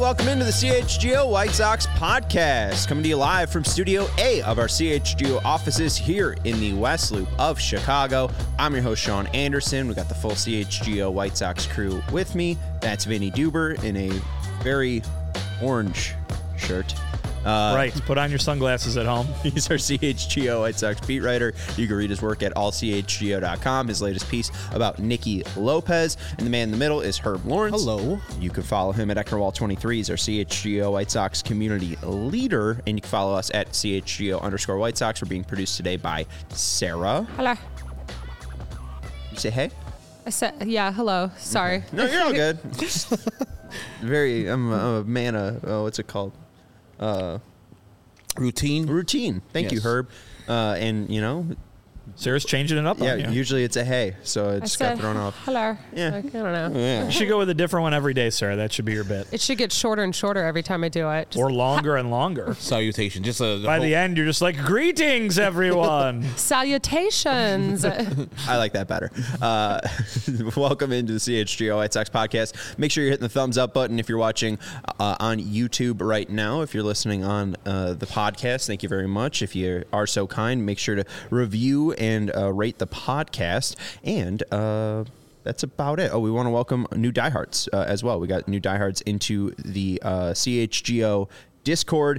welcome into the CHGO White Sox podcast, coming to you live from Studio A of our CHGO offices here in the West Loop of Chicago. I'm your host, Sean Anderson. We got the full CHGO White Sox crew with me. That's Vinny Duber in a very orange shirt. Right. Put on your sunglasses at home. He's our CHGO White Sox beat writer. You can read his work at allchgo.com. His latest piece about Nicky Lopez. And the man in the middle is Herb Lawrence. Hello. You can follow him at Eckerwall23. He's our CHGO White Sox community leader. And you can follow us at CHGO_White Sox. We're being produced today by Sarah. Hello. You say hey? I said, yeah, hello. Sorry. No, you're all good. I'm a man of, what's it called? Routine. Thank you, Herb. And, you know, Sarah's changing it up on you. Usually it's a hey, so it just got thrown off. Hello. Yeah. Like, I don't know. Yeah. You should go with a different one every day, Sarah. That should be your bit. It should get shorter and shorter every time I do it. Or longer and longer. Salutation. Just by the end, you're just like, greetings, everyone. Salutations. I like that better. Welcome into the CHGO White Sox podcast. Make sure you're hitting the thumbs up button if you're watching on YouTube right now. If you're listening on the podcast, thank you very much. If you are so kind, make sure to review and rate the podcast. And that's about it. Oh, we want to welcome new diehards as well. We got new diehards into the CHGO Discord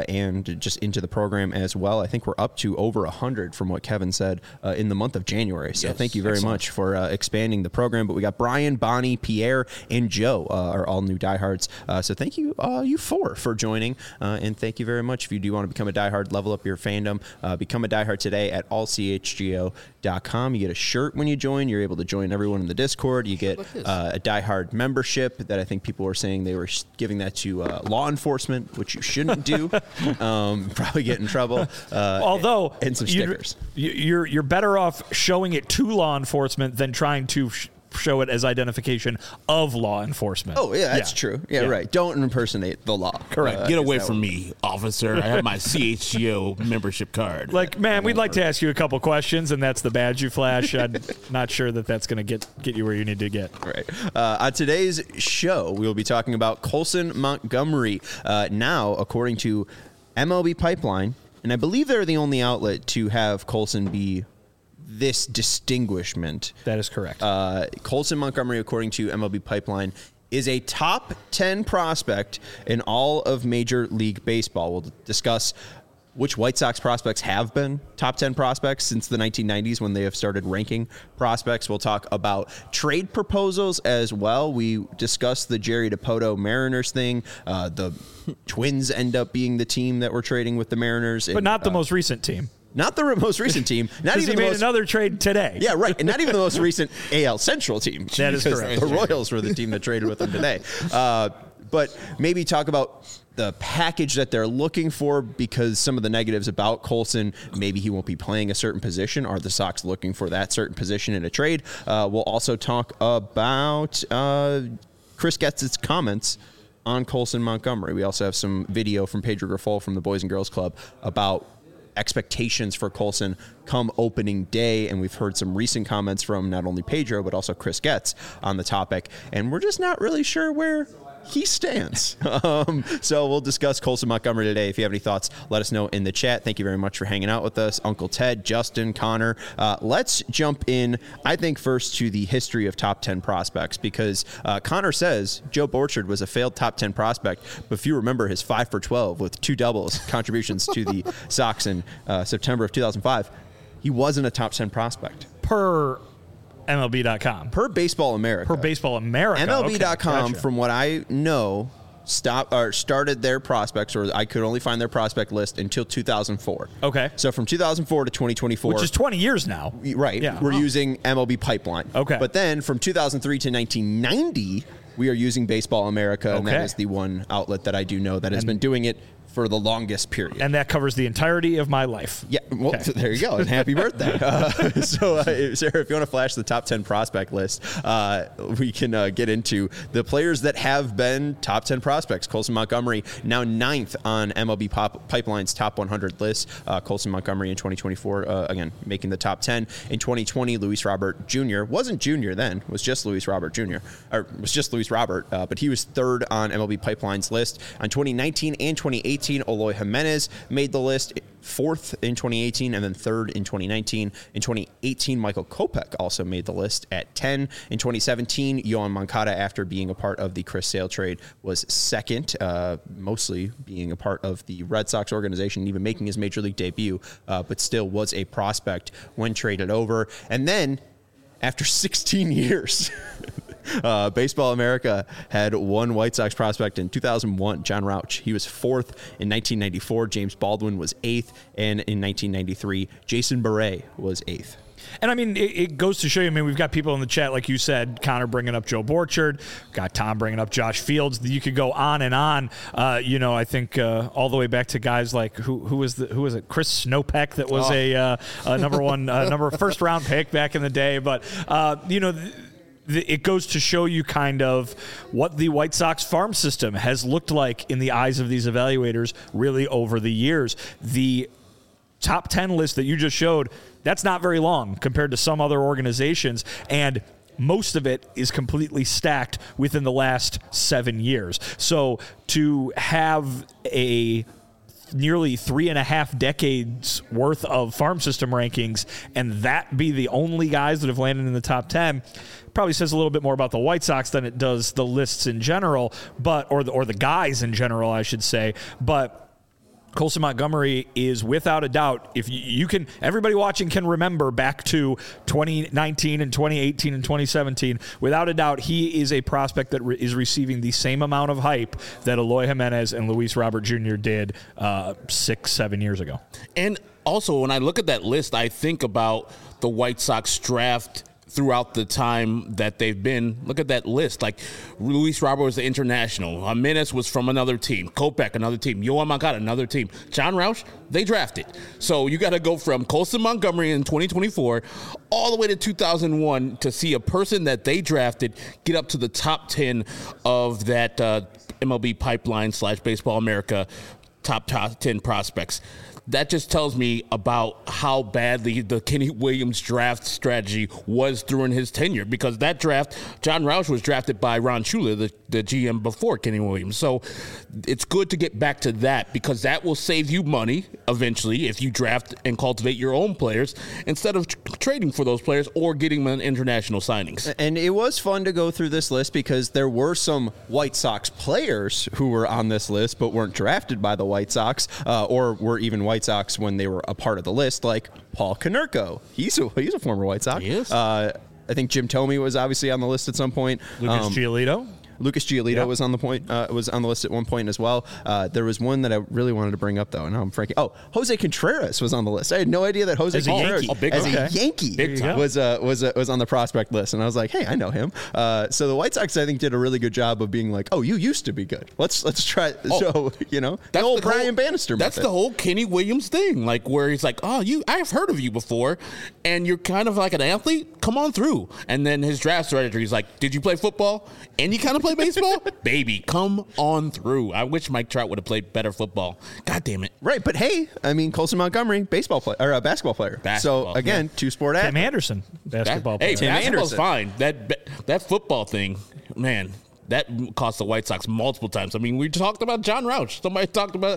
and just into the program as well. I think we're up to over 100 from what Kevin said in the month of January. So thank you very much for expanding the program. But we got Brian, Bonnie, Pierre, and Joe are all new diehards. So thank you, you four, for joining. And thank you very much. If you do want to become a diehard, level up your fandom, become a diehard today at allchgo.com. You get a shirt when you join. You're able to join everyone in the Discord. You get a diehard membership that I think people were saying they were giving that to law enforcement, which you shouldn't do. Probably get in trouble. Although, and some stickers. You're better off showing it to law enforcement than trying to show it as identification of law enforcement. Oh, yeah, that's true. Yeah, right. Don't impersonate the law. Correct. Get away from me, officer. I have my CHGO membership card. Like, man, we'd like to ask you a couple questions, and that's the badge you flash. I'm not sure that that's going to get you where you need to get. Right. On today's show, we will be talking about Colson Montgomery. Now, according to MLB Pipeline, and I believe they're the only outlet to have Colson be this distinguishment. That is correct. Colson Montgomery, according to MLB Pipeline, is a top 10 prospect in all of Major League Baseball. We'll discuss which White Sox prospects have been top 10 prospects since the 1990s when they have started ranking prospects. We'll talk about trade proposals as well. We discussed the Jerry Dipoto Mariners thing. The Twins end up being the team that we're trading with the Mariners. But not the most recent team. Not the most recent team. Not even he made another trade today. Yeah, right. And not even the most recent AL Central team. That is correct. The Royals were the team that traded with them today. But maybe talk about the package that they're looking for, because some of the negatives about Colson, maybe he won't be playing a certain position. Are the Sox looking for that certain position in a trade? We'll also talk about Chris Getz's comments on Colson Montgomery. We also have some video from Pedro Grifol from the Boys and Girls Club about expectations for Colson come opening day, and we've heard some recent comments from not only Pedro but also Chris Getz on the topic, and we're just not really sure where he stands. So we'll discuss Colson Montgomery today. If you have any thoughts, let us know in the chat. Thank you very much for hanging out with us, Uncle Ted, Justin, Connor. Let's jump in, I think, first to the history of top 10 prospects, because Connor says Joe Borchard was a failed top 10 prospect, but if you remember his 5 for 12 with 2 doubles contributions to the Sox in September of 2005, he wasn't a top 10 prospect. Per MLB.com. Per Baseball America. Per Baseball America. MLB.com, okay, gotcha. From what I know, started their prospects, or I could only find their prospect list until 2004. Okay. So from 2004 to 2024. Which is 20 years now. Right. Yeah. We're using MLB Pipeline. Okay. But then from 2003 to 1990, we are using Baseball America, and that is the one outlet that I do know that has been doing it for the longest period. And that covers the entirety of my life. Yeah, well, there you go. And happy birthday. Sarah, if you want to flash the top 10 prospect list, we can get into the players that have been top 10 prospects. Colson Montgomery, now 9th on MLB Pipeline's top 100 list. Colson Montgomery in 2024, again, making the top 10. In 2020, Luis Robert Jr. wasn't junior then, was just Luis Robert Jr., or was just Luis Robert, but he was 3rd on MLB Pipeline's list. On 2019 and 2018, Eloy Jimenez made the list, 4th in 2018 and then 3rd in 2019. In 2018, Michael Kopech also made the list at 10. In 2017, Yoan Moncada, after being a part of the Chris Sale trade, was 2nd, mostly being a part of the Red Sox organization, even making his major league debut, but still was a prospect when traded over. And then, after 16 years, Baseball America had one White Sox prospect in 2001, John Rauch. He was 4th in 1994. James Baldwin was 8th. And in 1993, Jason Beret was 8th. And I mean, it goes to show you, I mean, we've got people in the chat, like you said, Connor bringing up Joe Borchard, got Tom bringing up Josh Fields. You could go on and on. I think all the way back to guys like who was it? Chris Snopek, that was a first round pick back in the day. But it goes to show you kind of what the White Sox farm system has looked like in the eyes of these evaluators really over the years. The top 10 list that you just showed, that's not very long compared to some other organizations, and most of it is completely stacked within the last 7 years. So to have a nearly 3.5 decades worth of farm system rankings and that be the only guys that have landed in the top 10 probably says a little bit more about the White Sox than it does the lists in general, or the guys in general, I should say. But Colson Montgomery is without a doubt, if you can, everybody watching can remember back to 2019 and 2018 and 2017, without a doubt, he is a prospect that is receiving the same amount of hype that Eloy Jimenez and Luis Robert Jr. did 6-7 years ago. And also, when I look at that list, I think about the White Sox draft throughout the time that they've been. Look at that list. Like, Luis Robert was the international. Jimenez was from another team. Kopech, another team. Yoan Moncada, another team. John Rauch, they drafted. So you got to go from Colson Montgomery in 2024 all the way to 2001 to see a person that they drafted get up to the top 10 of that MLB Pipeline / Baseball America top 10 prospects. That just tells me about how badly the Kenny Williams draft strategy was during his tenure, because that draft, John Rauch was drafted by Ron Shula, the GM before Kenny Williams. So it's good to get back to that, because that will save you money eventually if you draft and cultivate your own players instead of trading for those players or getting them in international signings. And it was fun to go through this list because there were some White Sox players who were on this list but weren't drafted by the White Sox or were even White Sox when they were a part of the list, like Paul Konerko. He's a former White Sox. He is. I think Jim Thome was obviously on the list at some point. Lucas Giolito. Lucas Giolito was on the list at one point as well. There was one that I really wanted to bring up though, and now I'm franking. Oh, Jose Contreras was on the list. I had no idea that Jose Contreras a Yankee was on the prospect list, and I was like, hey, I know him. So the White Sox, I think, did a really good job of being like, oh, you used to be good. Let's try. So the old Brian Bannister method. That's the whole Kenny Williams thing, like where he's like, oh, I've heard of you before, and you're kind of like an athlete. Come on through. And then his draft strategy, he's like, did you play football? And you kind of play baseball? Baby, come on through. I wish Mike Trout would have played better football. God damn it. Right, but hey, I mean, Colson Montgomery, basketball player. So again, two-sport athlete. Tim Anderson, basketball player. Hey, basketball's fine. That football thing, man, that cost the White Sox multiple times. I mean, we talked about John Rauch. Somebody talked about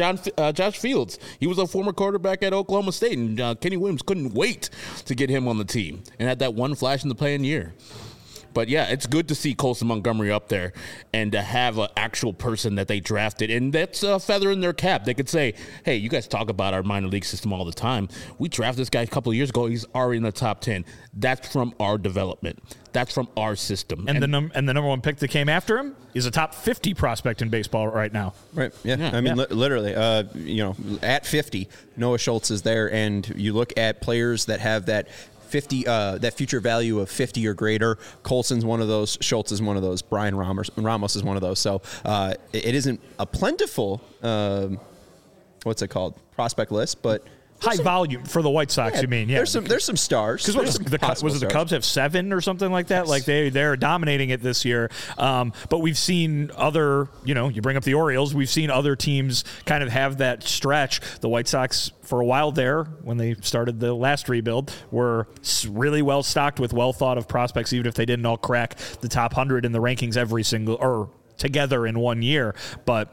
Josh Fields. He was a former quarterback at Oklahoma State, and Kenny Williams couldn't wait to get him on the team and had that one flash in the playing year. But, yeah, it's good to see Colson Montgomery up there and to have an actual person that they drafted. And that's a feather in their cap. They could say, hey, you guys talk about our minor league system all the time. We drafted this guy a couple of years ago. He's already in the top 10. That's from our development. That's from our system. And the number one pick that came after him is a top 50 prospect in baseball right now. Right. Yeah. I mean, literally, at 50, Noah Schultz is there. And you look at players that have that 50, that future value of 50 or greater. Colson's one of those. Schultz is one of those. Brian Ramos is one of those. So it isn't a plentiful, what's it called, prospect list, but high volume for the White Sox. yeah, You mean? Yeah. There's some stars. Because was it the Cubs have 7 or something like that? Like they're dominating it this year. But we've seen other, you bring up the Orioles. We've seen other teams kind of have that stretch. The White Sox for a while there, when they started the last rebuild, were really well stocked with well thought of prospects, even if they didn't all crack the top 100 in the rankings every single or together in 1 year. But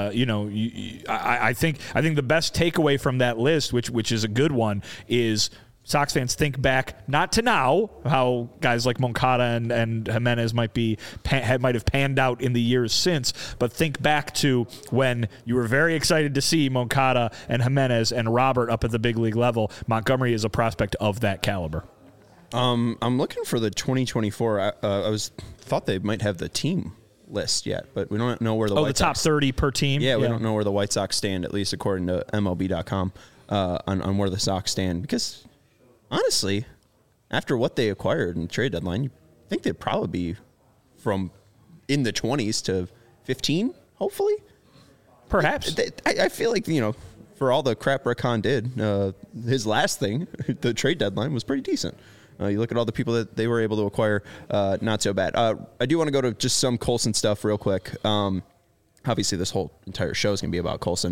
I think the best takeaway from that list, which is a good one, is Sox fans think back not to now, how guys like Moncada and Jimenez might have panned out in the years since, but think back to when you were very excited to see Moncada and Jimenez and Robert up at the big league level. Montgomery is a prospect of that caliber. I'm looking for the 2024. I thought they might have the team list yet, but we don't know where the White top Sox, 30 per team. Yeah, we don't know where the White Sox stand, at least according to MLB.com, on where the Sox stand. Because honestly, after what they acquired in the trade deadline, you think they'd probably be from in the 20s to 15, hopefully. Perhaps. I feel like, for all the crap Rick Hahn did, his last thing, the trade deadline, was pretty decent. You look at all the people that they were able to acquire, not so bad. I do want to go to just some Colson stuff real quick. Obviously, this whole entire show is going to be about Colson.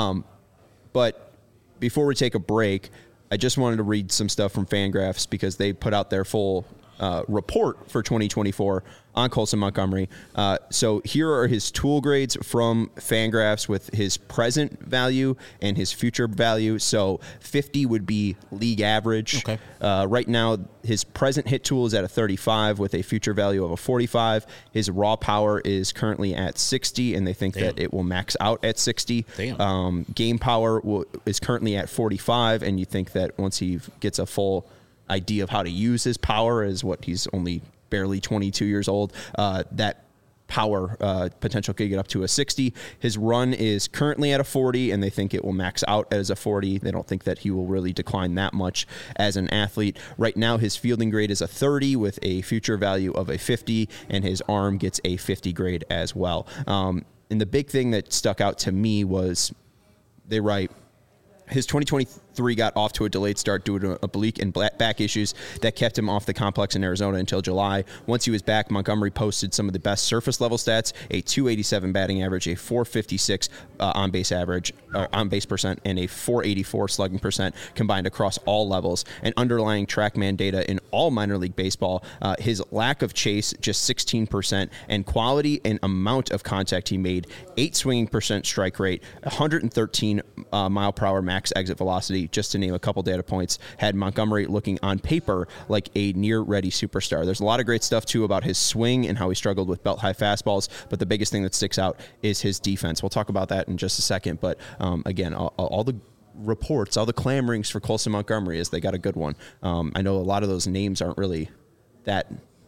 But before we take a break, I just wanted to read some stuff from Fangraphs because they put out their full report for 2024 on Colson Montgomery. So here are his tool grades from Fangraphs with his present value and his future value. So 50 would be league average. Okay. Right now, his present hit tool is at a 35 with a future value of a 45. His raw power is currently at 60, and they think that it will max out at 60. Damn. Game power is currently at 45, and you think that once he gets a full idea of how to use his power, is what he's only barely 22 years old, that power potential could get up to a 60. His run is currently at a 40, and they think it will max out as a 40. They don't think that he will really decline that much as an athlete. Right now, his fielding grade is a 30 with a future value of a 50, and his arm gets a 50 grade as well. And the big thing that stuck out to me was they write, his 2023 got off to a delayed start due to oblique and back issues that kept him off the complex in Arizona until July. Once he was back, Montgomery posted some of the best surface level stats: a 287 batting average, a 456 on base percent, and a 484 slugging percent combined across all levels. And underlying TrackMan data in all minor league baseball, his lack of chase just 16%, and quality and amount of contact he made: 8 swinging percent strike rate, 113 mile per hour max exit velocity, just to name a couple data points, had Montgomery looking on paper like a near-ready superstar. There's a lot of great stuff, too, about his swing and how he struggled with belt-high fastballs, but the biggest thing that sticks out is his defense. We'll talk about that in just a second, but again, all the reports, all the clamorings for Colson Montgomery is they got a good one. I know a lot of those names aren't really that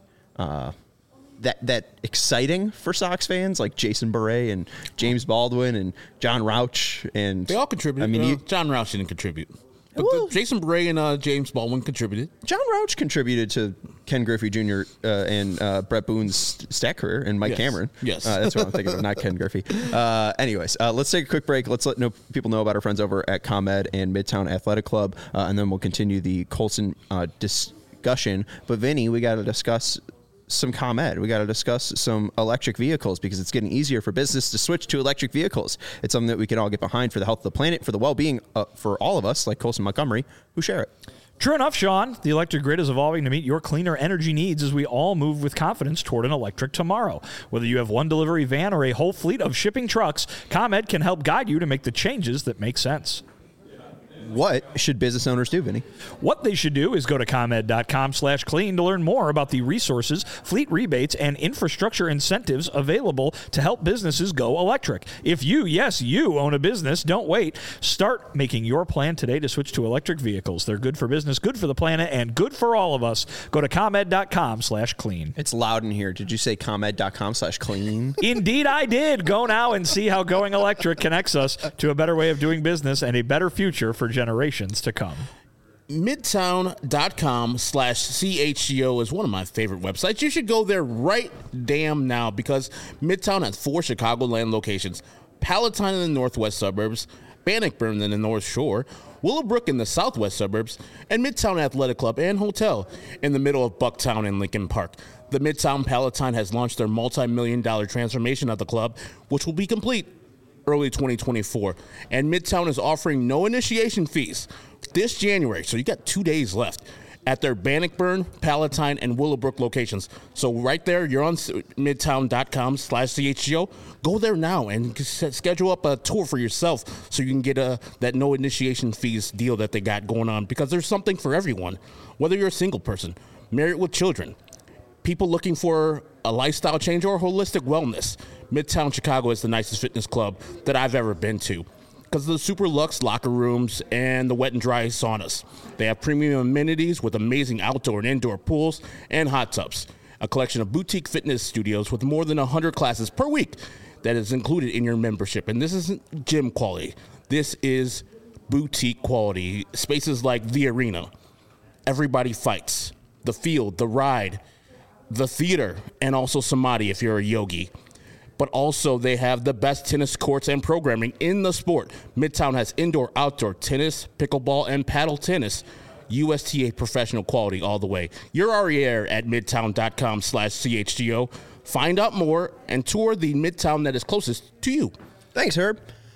exciting for Sox fans, like Jason Beret and James Baldwin and John Rauch, and they all contributed. I mean, John Rauch didn't contribute, but Well, Jason Bray and James Baldwin contributed. John Rauch contributed to Ken Griffey Jr. And Brett Boone's stat career, and Mike Yes. Cameron. Yes. That's what I'm thinking of, not Ken Griffey. Anyways, let's take a quick break. Let's let people know about our friends over at ComEd and Midtown Athletic Club, and then we'll continue the Colson discussion. But Vinny, we got to discuss some ComEd. We got to discuss some electric vehicles because it's getting easier for business to switch to electric vehicles. It's something that we can all get behind for the health of the planet, for the well-being for all of us, like Colson Montgomery, who share it. True enough, Sean. The electric grid is evolving to meet your cleaner energy needs as we all move with confidence toward an electric tomorrow. Whether you have one delivery van or a whole fleet of shipping trucks, ComEd can help guide you to make the changes that make sense. What should business owners do, Vinny? What they should do is go to ComEd.com/clean to learn more about the resources, fleet rebates, and infrastructure incentives available to help businesses go electric. If you own a business, don't wait. Start making your plan today to switch to electric vehicles. They're good for business, good for the planet, and good for all of us. Go to ComEd.com/clean. It's loud in here. Did you say ComEd.com/clean? Indeed, I did. Go now and see how going electric connects us to a better way of doing business and a better future for generations to come. Midtown.com/CHGO is one of my favorite websites. You should go there right damn now because Midtown has 4 Chicagoland locations: Palatine in the northwest suburbs, Bannockburn in the North Shore, Willowbrook in the southwest suburbs, and Midtown Athletic Club and Hotel in the middle of Bucktown and Lincoln Park. The Midtown Palatine has launched their multi-million-dollar transformation of the club, which will be complete early 2024. And Midtown is offering no initiation fees this January, so you got 2 days left at their Bannockburn, Palatine, and Willowbrook locations. So right there, you're on midtown.com/CHGO. Go there now and schedule up a tour for yourself so you can get that no initiation fees deal that they got going on, because there's something for everyone. Whether you're a single person, married with children, people looking for a lifestyle change or holistic wellness, Midtown Chicago is the nicest fitness club that I've ever been to, because of the super luxe locker rooms and the wet and dry saunas. They have premium amenities with amazing outdoor and indoor pools and hot tubs. A collection of boutique fitness studios with more than 100 classes per week that is included in your membership. And this isn't gym quality. This is boutique quality. Spaces like the arena, Everybody Fights, the field, the ride, the theater, and also Samadhi if you're a yogi. But also they have the best tennis courts and programming in the sport. Midtown has indoor, outdoor tennis, pickleball, and paddle tennis. USTA professional quality all the way. You're already there at midtown.com/CHGO. Find out more and tour the Midtown that is closest to you. Thanks, Herb.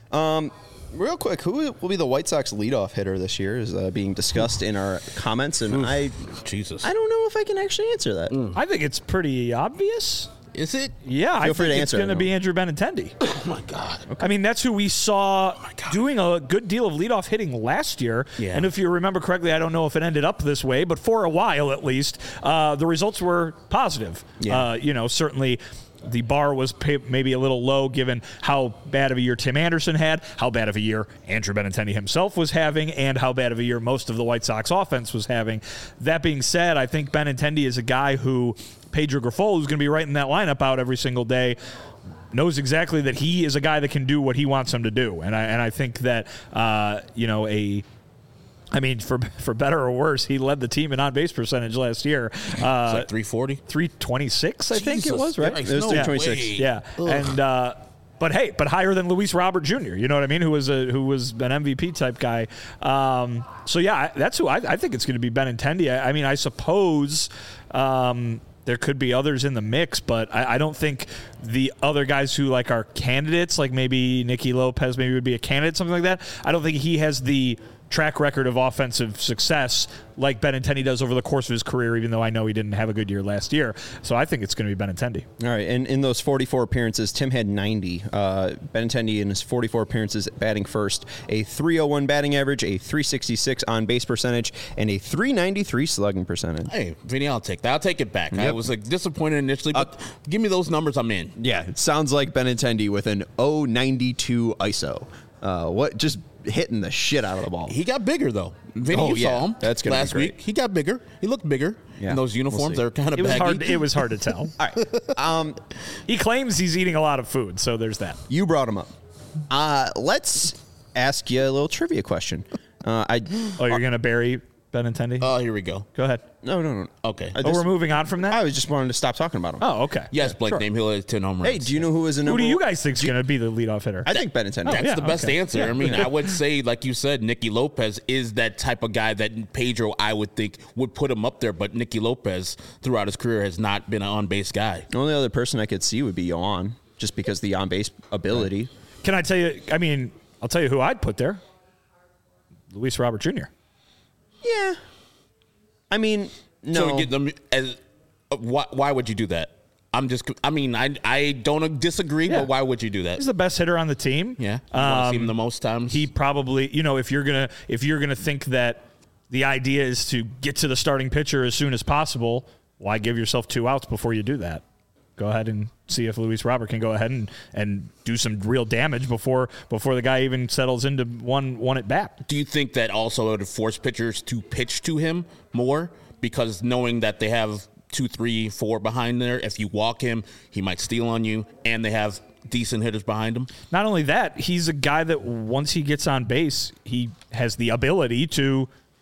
Real quick, who will be the White Sox leadoff hitter this year is being discussed in our comments, and I don't know if I can actually answer that. I think it's pretty obvious. Is it? Yeah, I think it's going to be Andrew Benintendi. Oh, my God. Okay. I mean, that's who we saw doing a good deal of leadoff hitting last year. Yeah. And if you remember correctly, I don't know if it ended up this way, but for a while at least, the results were positive. Yeah. Certainly the bar was maybe a little low given how bad of a year Tim Anderson had, how bad of a year Andrew Benintendi himself was having, and how bad of a year most of the White Sox offense was having. That being said, I think Benintendi is a guy who Pedro Grifol, who's going to be writing that lineup out every single day, knows exactly that he is a guy that can do what he wants him to do. And I think that, for better or worse, he led the team in on-base percentage last year. It's like 340? 326, I think it was, right? It was 326. Yeah. Ugh. And but higher than Luis Robert Jr., you know what I mean, who was an MVP type guy. That's who I think it's going to be, Benintendi. I suppose there could be others in the mix, but I don't think the other guys who are candidates, like maybe Nicky Lopez maybe would be a candidate, something like that. I don't think he has the track record of offensive success like Benintendi does over the course of his career, even though I know he didn't have a good year last year. So I think it's going to be Benintendi. All right, and in those 44 appearances, Tim had 90. Benintendi in his 44 appearances batting first, a 301 batting average, a 366 on-base percentage, and a 393 slugging percentage. Hey, Vinny, I'll take that. I'll take it back. Yep. I was disappointed initially, but give me those numbers, I'm in. Yeah, it sounds like Benintendi with an 092 ISO. Just hitting the shit out of the ball. He got bigger, though. Vinny, you saw him last week. He got bigger. He looked bigger in those uniforms. They're kind of baggy. It was hard to tell. All right. He claims he's eating a lot of food, so there's that. You brought him up. Let's ask you a little trivia question. You're going to bury Benintendi? Oh, here we go. Go ahead. No. Okay. We're moving on from that? I was just wanting to stop talking about him. Oh, okay. Yes, Blake sure. Name Hill has 10 home runs. Hey, do you know who is a number? Who do you guys think is going to be the leadoff hitter? I think Benintendi. That's the best answer. Yeah. I mean, I would say, like you said, Nicky Lopez is that type of guy that Pedro, I would think, would put him up there. But Nicky Lopez, throughout his career, has not been an on-base guy. The only other person I could see would be Yohan, just because the on-base ability. Can I tell you? I mean, I'll tell you who I'd put there. Luis Robert Jr. Yeah. I mean, no. So get them why would you do that? I don't disagree, but why would you do that? He's the best hitter on the team. Yeah. You want to see him the most times? He probably, if you're gonna think that the idea is to get to the starting pitcher as soon as possible, why give yourself 2 outs before you do that? Go ahead and see if Luis Robert can go ahead and do some real damage before the guy even settles into one at bat. Do you think that also would force pitchers to pitch to him more? Because knowing that they have 2, 3, 4 behind there, if you walk him, he might steal on you, and they have decent hitters behind him. Not only that, he's a guy that once he gets on base, he has the ability to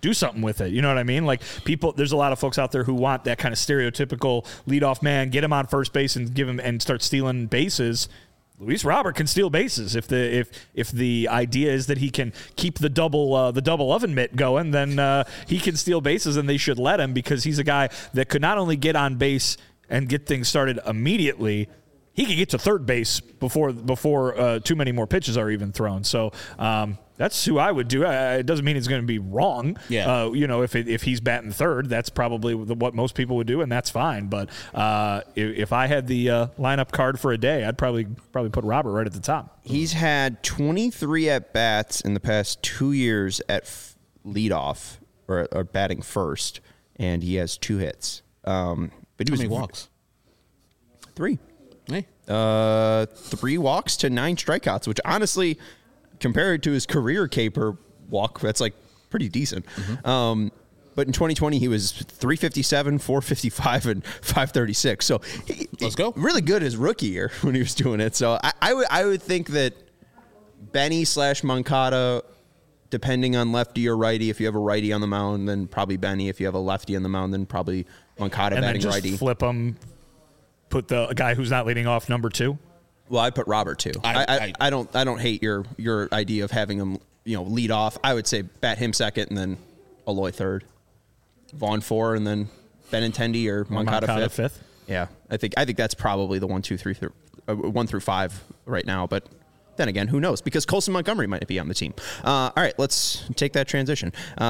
do something with it. You know what I mean? Like there's a lot of folks out there who want that kind of stereotypical leadoff man, get him on first base and give him and start stealing bases. Luis Robert can steal bases if the idea is that he can keep the double oven mitt going, then he can steal bases, and they should let him, because he's a guy that could not only get on base and get things started immediately, he could get to third base before too many more pitches are even thrown. So that's who I would do. It doesn't mean it's going to be wrong. Yeah. If he's batting third, that's probably what most people would do, and that's fine. But if I had the lineup card for a day, I'd probably put Robert right at the top. He's had 23 at bats in the past 2 years at leadoff or batting first, and he has 2 hits. But he How many walks? 3. Hey. 3 walks to 9 strikeouts, which honestly, compared to his career K-per walk, that's like pretty decent. Mm-hmm. But in 2020, he was 357, 455, and 536. So Let's go. Really good his rookie year when he was doing it. So I would think that Benny / Moncada, depending on lefty or righty, if you have a righty on the mound, then probably Benny. If you have a lefty on the mound, then probably Moncada And batting then just righty. flip him, put the guy who's not leading off number 2. Well, I put Robert too. I don't hate your idea of having him lead off. I would say bat him second and then Eloy third, Vaughn 4, and then Benintendi or Moncada fifth. Yeah, I think that's probably the 1, 2, 3, 1 through 5 right now. But then again, who knows? Because Colson Montgomery might be on the team. All right, let's take that transition.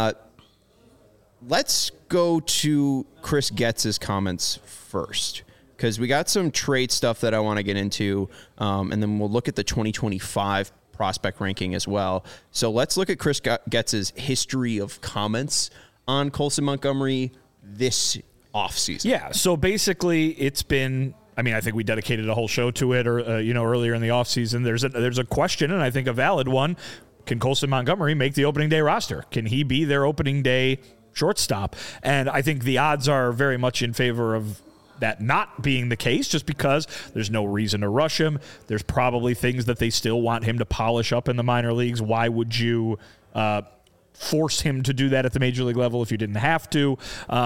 Let's go to Chris Getz's comments first, because we got some trade stuff that I want to get into, and then we'll look at the 2025 prospect ranking as well. So let's look at Chris Getz's history of comments on Colson Montgomery this offseason. Yeah, so basically it's been, I think we dedicated a whole show to it earlier in the offseason. There's a question, and I think a valid one. Can Colson Montgomery make the opening day roster? Can he be their opening day shortstop? And I think the odds are very much in favor of that not being the case, just because there's no reason to rush him. There's probably things that they still want him to polish up in the minor leagues. Why would you force him to do that at the major league level if you didn't have to?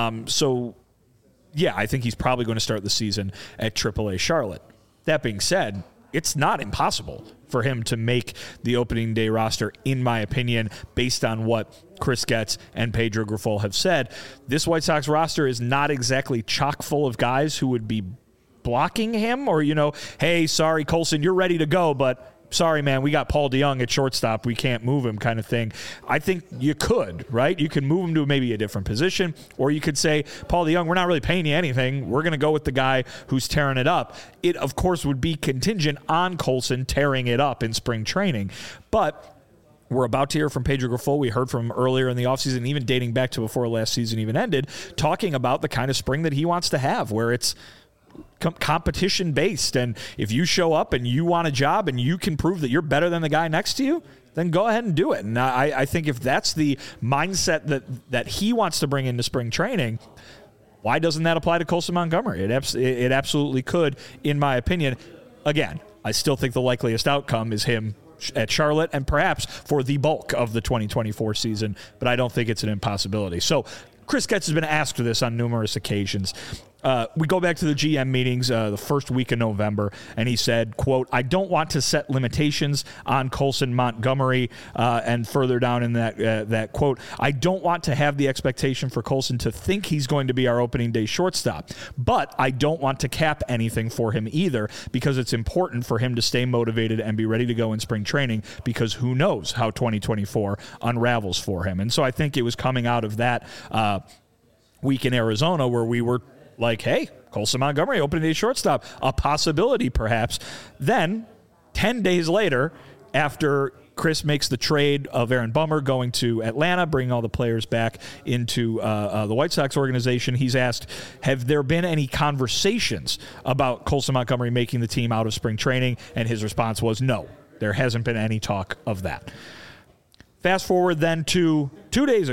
Yeah, I think he's probably going to start the season at AAA Charlotte. That being said, it's not impossible for him to make the opening day roster, in my opinion, based on what Chris Getz and Pedro Grifol have said. This White Sox roster is not exactly chock full of guys who would be blocking him or, hey, sorry, Colson, you're ready to go, but sorry, man, we got Paul DeJong at shortstop. We can't move him kind of thing. I think you could, right? You can move him to maybe a different position, or you could say, Paul DeJong, we're not really paying you anything. We're going to go with the guy who's tearing it up. It, of course, would be contingent on Colson tearing it up in spring training. But we're about to hear from Pedro Grifol. We heard from him earlier in the offseason, even dating back to before last season even ended, talking about the kind of spring that he wants to have, where it's competition based, and if you show up and you want a job and you can prove that you're better than the guy next to you, then go ahead and do it. And I think if that's the mindset that he wants to bring into spring training, why doesn't that apply to Colson Montgomery? It absolutely could, in my opinion. Again, I still think the likeliest outcome is him at Charlotte and perhaps for the bulk of the 2024 season, but I don't think it's an impossibility. So Chris Getz has been asked this on numerous occasions. We go back to the GM meetings the first week of November, and he said, quote, I don't want to set limitations on Colson Montgomery, and further down in that quote, I don't want to have the expectation for Colson to think he's going to be our opening day shortstop, but I don't want to cap anything for him either, because it's important for him to stay motivated and be ready to go in spring training, because who knows how 2024 unravels for him. And so I think it was coming out of that week in Arizona where we were like, hey, Colson Montgomery, opening day shortstop, a possibility perhaps. Then 10 days later, after Chris makes the trade of Aaron Bummer going to Atlanta, bringing all the players back into the White Sox organization, he's asked, have there been any conversations about Colson Montgomery making the team out of spring training? And his response was no, there hasn't been any talk of that. Fast forward then to 3 days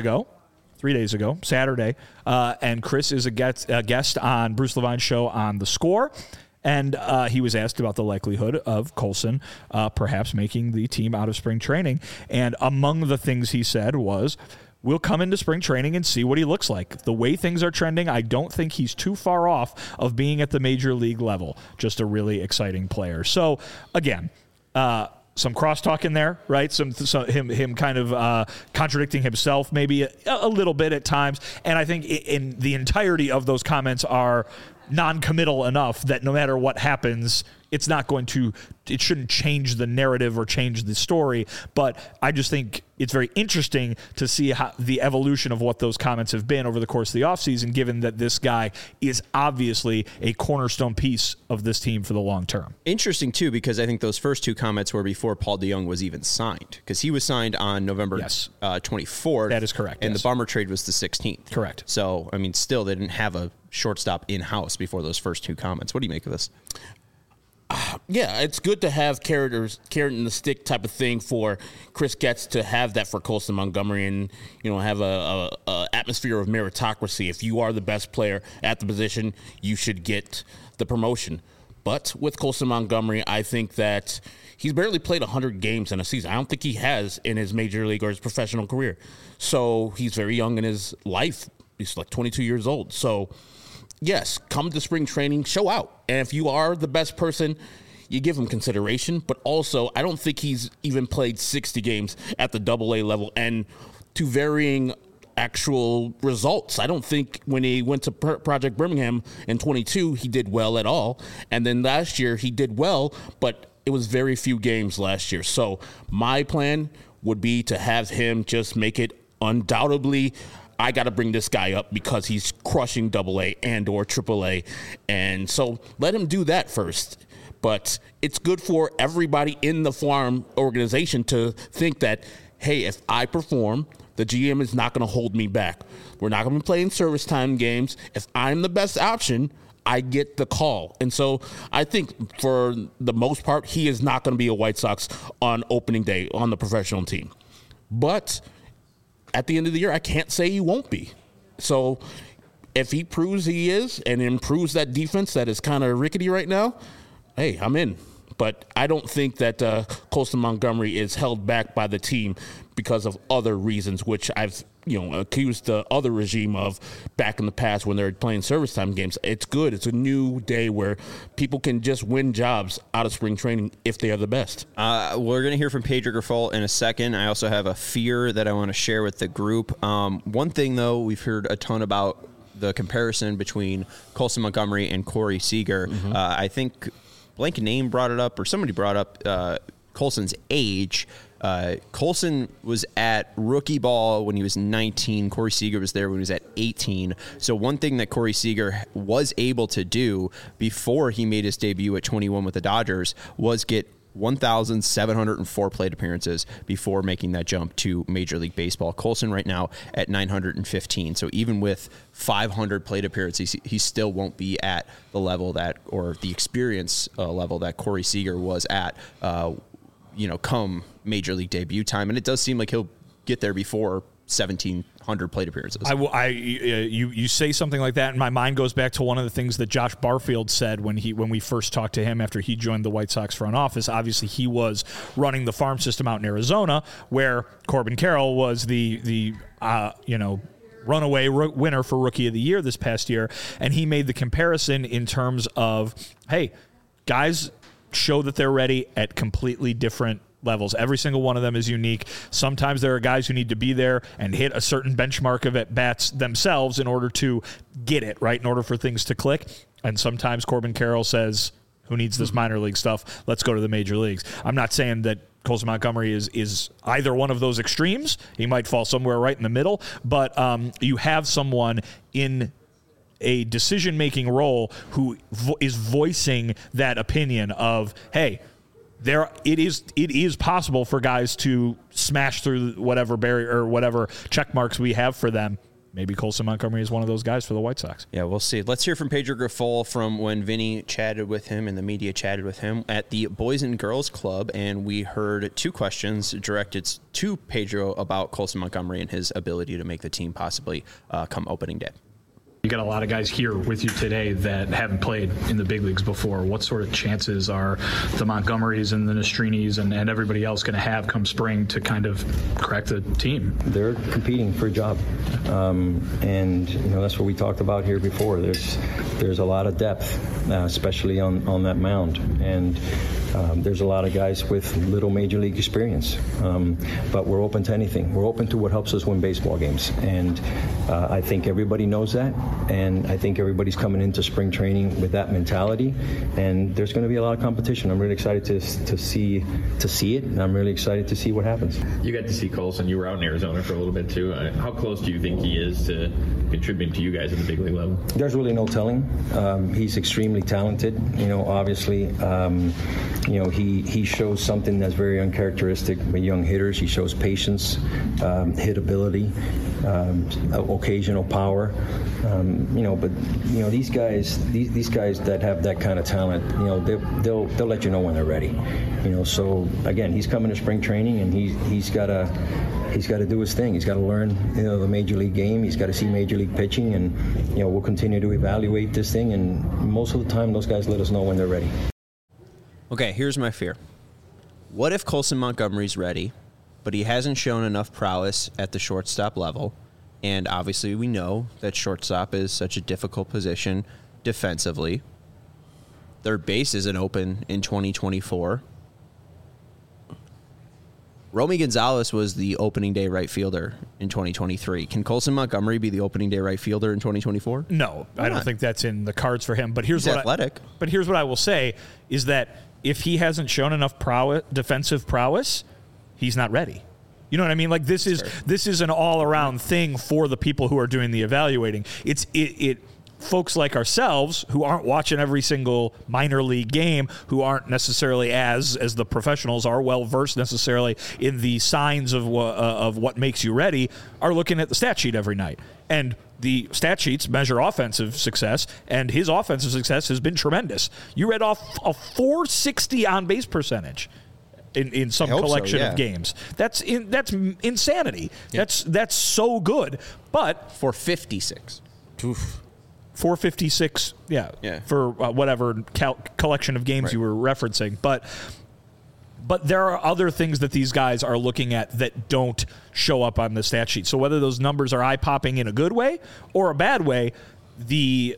ago, Saturday, and Chris is a guest on Bruce Levine's show on The Score, and he was asked about the likelihood of Colson perhaps making the team out of spring training, and among the things he said was, we'll come into spring training and see what he looks like. The way things are trending, I don't think he's too far off of being at the major league level. Just a really exciting player. So, again, some crosstalk in there, right? Some him kind of contradicting himself maybe a little bit at times. And I think in the entirety of those comments are non-committal enough that no matter what happens, it shouldn't change the narrative or change the story. But I just think it's very interesting to see how the evolution of what those comments have been over the course of the offseason, given that this guy is obviously a cornerstone piece of this team for the long term. Interesting, too, because I think those first two comments were before Paul DeJong was even signed, because he was signed on November 24th. That is correct. And the Bummer trade was the 16th. Correct. So, I mean, still, they didn't have a shortstop in-house before those first two comments. What do you make of this? Yeah, it's good to have carrot in the stick type of thing for Chris Getz to have that for Colson Montgomery, and have a atmosphere of meritocracy. If you are the best player at the position, you should get the promotion. But with Colson Montgomery, I think that he's barely played 100 games in a season. I don't think he has in his major league or his professional career. So he's very young in his life. He's like 22 years old. So yes, come to spring training, show out. And if you are the best person, you give him consideration. But also, I don't think he's even played 60 games at the AA level and to varying actual results. I don't think when he went to Project Birmingham in 22, he did well at all. And then last year, he did well, but it was very few games last year. So my plan would be to have him just make it undoubtedly, I got to bring this guy up because he's crushing AA and or AAA. And so let him do that first. But it's good for everybody in the farm organization to think that, hey, if I perform, the GM is not going to hold me back. We're not going to be playing service time games. If I'm the best option, I get the call. And so I think for the most part, he is not going to be a White Sox on opening day on the professional team. But at the end of the year, I can't say he won't be. So if he proves he is and improves that defense that is kind of rickety right now, hey, I'm in. But I don't think that Colson Montgomery is held back by the team because of other reasons, which I've accused the other regime of back in the past when they're playing service time games. It's good. It's a new day where people can just win jobs out of spring training if they are the best. We're going to hear from Pedro Grifol in a second. I also have a fear that I want to share with the group. One thing, though, we've heard a ton about the comparison between Colson Montgomery and Corey Seager. Mm-hmm. I think blank name brought it up, or somebody brought up Colson's age. Colson was at rookie ball when he was 19. Corey Seager was there when he was at 18. So one thing that Corey Seager was able to do before he made his debut at 21 with the Dodgers was get 1,704 plate appearances before making that jump to Major League Baseball. Colson right now at 915. So even with 500 plate appearances, he still won't be at the level that, or the experience level that Corey Seager was at, come Major League debut time. And it does seem like he'll get there before 1,700 plate appearances. You say something like that, and my mind goes back to one of the things that Josh Barfield said when we first talked to him after he joined the White Sox front office. Obviously, he was running the farm system out in Arizona, where Corbin Carroll was the runaway winner for Rookie of the Year this past year, and he made the comparison in terms of, hey, guys show that they're ready at completely different levels. Every single one of them is unique. Sometimes there are guys who need to be there and hit a certain benchmark of at-bats themselves in order to get it, right, in order for things to click. And sometimes Corbin Carroll says, who needs this minor league stuff? Let's go to the major leagues. I'm not saying that Colson Montgomery is either one of those extremes. He might fall somewhere right in the middle, but you have someone in a decision-making role who is voicing that opinion of, hey, it is possible for guys to smash through whatever barrier or whatever check marks we have for them. Maybe Colson Montgomery is one of those guys for the White Sox. Yeah, we'll see. Let's hear from Pedro Grifol from when Vinny chatted with him and the media chatted with him at the Boys and Girls Club, and we heard two questions directed to Pedro about Colson Montgomery and his ability to make the team possibly come opening day. You got a lot of guys here with you today that haven't played in the big leagues before. What sort of chances are the Montgomerys and the Nestrinis and everybody else going to have come spring to kind of crack the team? They're competing for a job, and that's what we talked about here before. There's a lot of depth, especially on that mound, and there's a lot of guys with little major league experience, but we're open to anything. We're open to what helps us win baseball games, and I think everybody knows that, and I think everybody's coming into spring training with that mentality, and there's going to be a lot of competition. I'm really excited to see it, and I'm really excited to see what happens. You got to see Colson. You were out in Arizona for a little bit too. How close do you think he is to contributing to you guys at the big league level? There's really no telling. He's extremely talented. Obviously. He shows something that's very uncharacteristic with young hitters. He shows patience, hit ability, occasional power. But these guys that have that kind of talent, they'll let you know when they're ready. So again, he's coming to spring training, and he's got to do his thing. He's got to learn, the major league game. He's got to see major league pitching, and we'll continue to evaluate this thing. And most of the time, those guys let us know when they're ready. Okay, here's my fear. What if Colson Montgomery's ready, but he hasn't shown enough prowess at the shortstop level? And obviously we know that shortstop is such a difficult position defensively. Third base isn't open in 2024. Romy Gonzalez was the opening day right fielder in 2023. Can Colson Montgomery be the opening day right fielder in 2024? No, I don't think that's in the cards for him. But here's He's athletic. But here's what I will say is that if he hasn't shown enough defensive prowess, he's not ready. You know what I mean? Like this is an all around thing for the people who are doing the evaluating. It folks like ourselves who aren't watching every single minor league game, who aren't necessarily as the professionals are well versed necessarily in the signs of what makes you ready, are looking at the stat sheet every night. And the stat sheets measure offensive success, and his offensive success has been tremendous. You read off a 460 on base percentage in some collection of games. That's insanity. Yeah. That's so good. But 456. Oof. 456, for whatever collection of games you were referencing. But there are other things that these guys are looking at that don't show up on the stat sheet. So whether those numbers are eye-popping in a good way or a bad way, the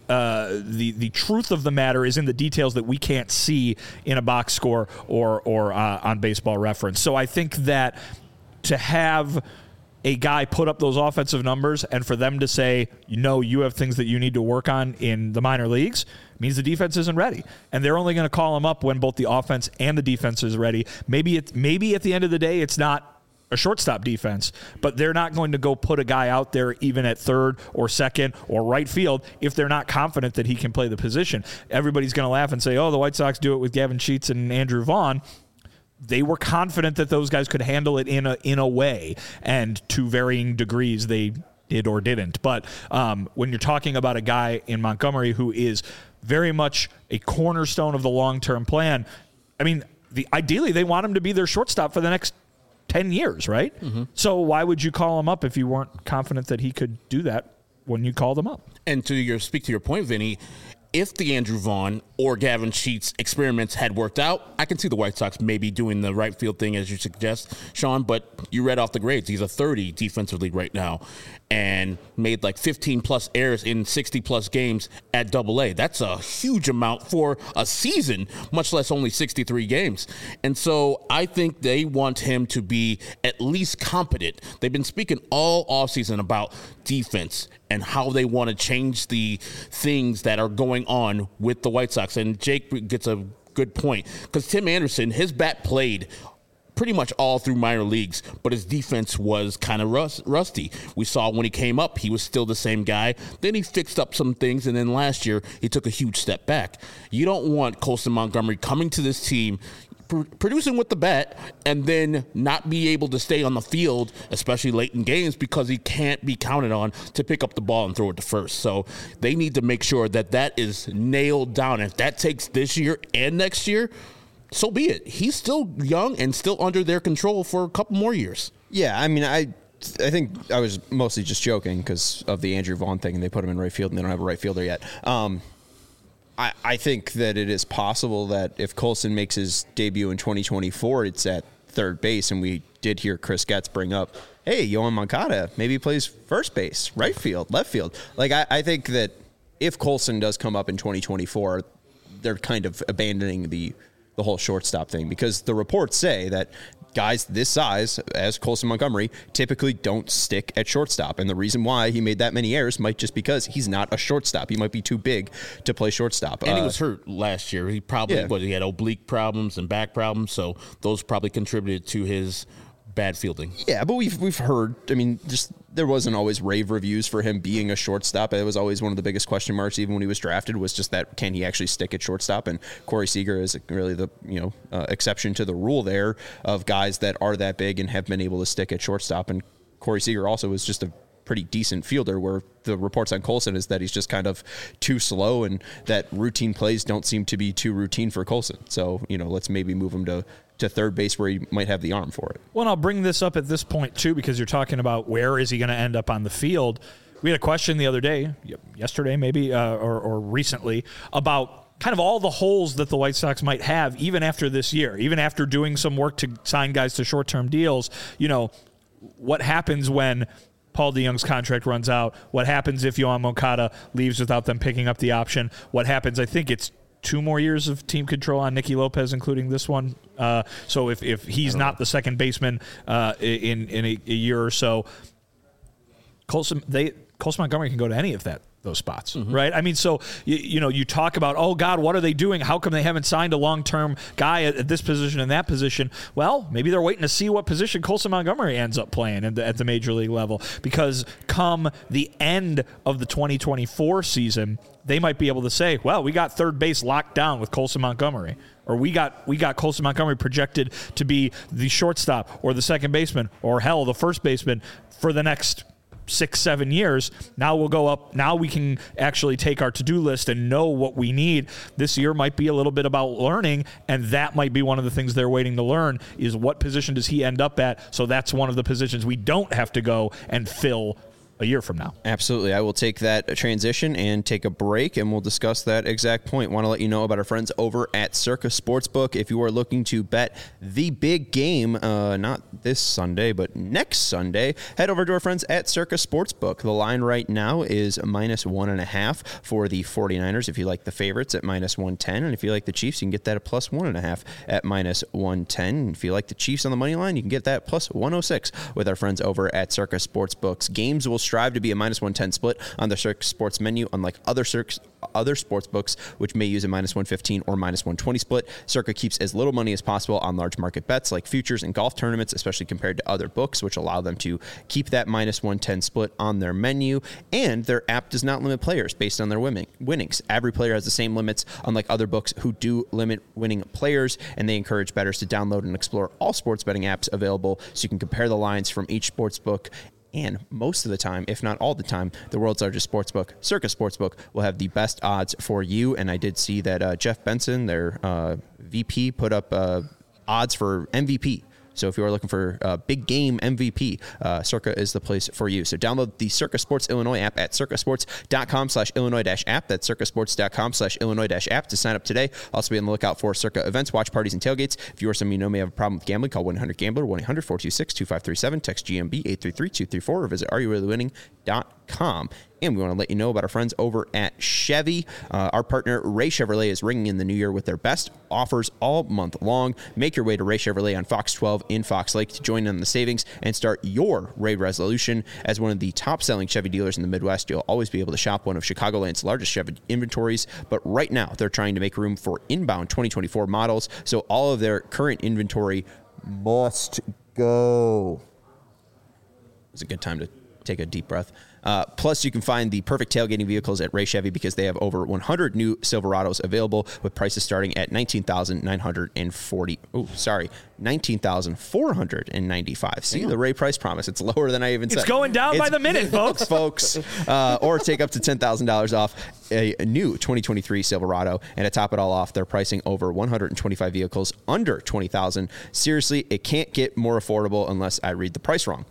truth of the matter is in the details that we can't see in a box score or on Baseball Reference. So I think that to have a guy put up those offensive numbers and for them to say, you have things that you need to work on in the minor leagues, means the defense isn't ready. And they're only going to call him up when both the offense and the defense is ready. Maybe at the end of the day, it's not a shortstop defense, but they're not going to go put a guy out there even at third or second or right field if they're not confident that he can play the position. Everybody's going to laugh and say, the White Sox do it with Gavin Sheets and Andrew Vaughn. They were confident that those guys could handle it in a way, and to varying degrees they did or didn't. But when you're talking about a guy in Montgomery who is very much a cornerstone of the long-term plan, I mean, ideally they want him to be their shortstop for the next 10 years, right? Mm-hmm. So why would you call him up if you weren't confident that he could do that when you called him up? And speak to your point, Vinny, if the Andrew Vaughn or Gavin Sheets experiments had worked out, I can see the White Sox maybe doing the right field thing as you suggest, Sean, but you read off the grades. He's a 30 defensively right now and made like 15-plus errors in 60-plus games at AA. That's a huge amount for a season, much less only 63 games. And so I think they want him to be at least competent. They've been speaking all offseason about defense and how they want to change the things that are going on with the White Sox. And Jake gets a good point because Tim Anderson, his bat played pretty much all through minor leagues, but his defense was kind of rusty. We saw when he came up, he was still the same guy. Then he fixed up some things, and then last year, he took a huge step back. You don't want Colson Montgomery coming to this team, producing with the bat, and then not be able to stay on the field, especially late in games, because he can't be counted on to pick up the ball and throw it to first. So they need to make sure that is nailed down. If that takes this year and next year, so be it. He's still young and still under their control for a couple more years. Yeah, I mean, I think I was mostly just joking because of the Andrew Vaughn thing, and they put him in right field, and they don't have a right fielder yet. I think that it is possible that if Colson makes his debut in 2024, it's at third base, and we did hear Chris Getz bring up, hey, Yoan Moncada maybe plays first base, right field, left field. Like, I think that if Colson does come up in 2024, they're kind of abandoning the whole shortstop thing, because the reports say that guys this size as Colson Montgomery typically don't stick at shortstop. And the reason why he made that many errors might just because he's not a shortstop. He might be too big to play shortstop. And he was hurt last year. He probably, he had oblique problems and back problems. So those probably contributed to his bad fielding. Yeah, but we've heard, I mean, just there wasn't always rave reviews for him being a shortstop. It was always one of the biggest question marks, even when he was drafted, was just that, can he actually stick at shortstop? And Corey Seager is really the exception to the rule there of guys that are that big and have been able to stick at shortstop. And Corey Seager also is just a pretty decent fielder, where the reports on Colson is that he's just kind of too slow and that routine plays don't seem to be too routine for Colson. So, let's maybe move him to third base where he might have the arm for it. Well, and I'll bring this up at this point, too, because you're talking about where is he going to end up on the field. We had a question the other day, yesterday maybe, or recently, about kind of all the holes that the White Sox might have even after this year, even after doing some work to sign guys to short-term deals. What happens when Paul DeJong's contract runs out? What happens if Yoan Moncada leaves without them picking up the option? What happens? I think it's 2 more years of team control on Nicky Lopez, including this one. So if he's not the second baseman in a year or so, Colson Montgomery can go to any of those spots, right? I mean, so you talk about, oh God, what are they doing? How come they haven't signed a long-term guy at this position and that position? Well, maybe they're waiting to see what position Colson Montgomery ends up playing at the major league level, because come the end of the 2024 season, they might be able to say, well, we got third base locked down with Colson Montgomery, or we got Colson Montgomery projected to be the shortstop or the second baseman or hell, the first baseman for the next 6-7 years. Now we'll go up. Now we can actually take our to-do list and know what we need. This year might be a little bit about learning, and that might be one of the things they're waiting to learn, is what position does he end up at. So that's one of the positions we don't have to go and fill a year from now. Absolutely. I will take that transition and take a break, and we'll discuss that exact point. Want to let you know about our friends over at Circa Sportsbook. If you are looking to bet the big game, not this Sunday, but next Sunday, head over to our friends at Circa Sportsbook. The line right now is -1.5 for the 49ers. If you like the favorites, at -110. And if you like the Chiefs, you can get that at +1.5 at -110. If you like the Chiefs on the money line, you can get that +106 with our friends over at Circa Sportsbooks. Games will strive to be a -110 split on the Circa Sports menu, unlike other sports books, which may use a -115 or -120 split. Circa keeps as little money as possible on large market bets like futures and golf tournaments, especially compared to other books, which allow them to keep that -110 split on their menu. And their app does not limit players based on their winnings. Every player has the same limits, unlike other books who do limit winning players, and they encourage bettors to download and explore all sports betting apps available so you can compare the lines from each sports book. And most of the time, if not all the time, the world's largest sportsbook, Circa Sportsbook, will have the best odds for you. And I did see that Jeff Benson, their VP, put up odds for MVP. So if you are looking for a big game MVP, Circa is the place for you. So download the Circa Sports Illinois app at circasports.com/Illinois-app. That's circasports.com/Illinois-app to sign up today. Also be on the lookout for Circa events, watch parties, and tailgates. If you or someone you know may have a problem with gambling, call 1-800-GAMBLER, 1-800-426-2537, text GMB 833-234, or visit areyourreallywinning.com. And we want to let you know about our friends over at Chevy. Our partner, Ray Chevrolet, is ringing in the new year with their best offers all month long. Make your way to Ray Chevrolet on Fox 12 in Fox Lake to join in on the savings and start your Ray resolution. As one of the top-selling Chevy dealers in the Midwest, you'll always be able to shop one of Chicagoland's largest Chevy inventories. But right now, they're trying to make room for inbound 2024 models, so all of their current inventory must go. It's a good time to take a deep breath. Plus, you can find the perfect tailgating vehicles at Ray Chevy because they have over 100 new Silverados available with prices starting at $19,495. See, the Ray price promise. It's lower than I even said. It's going down by the minute, folks. Or take up to $10,000 off a new 2023 Silverado. And to top it all off, they're pricing over 125 vehicles under $20,000. Seriously, it can't get more affordable unless I read the price wrong.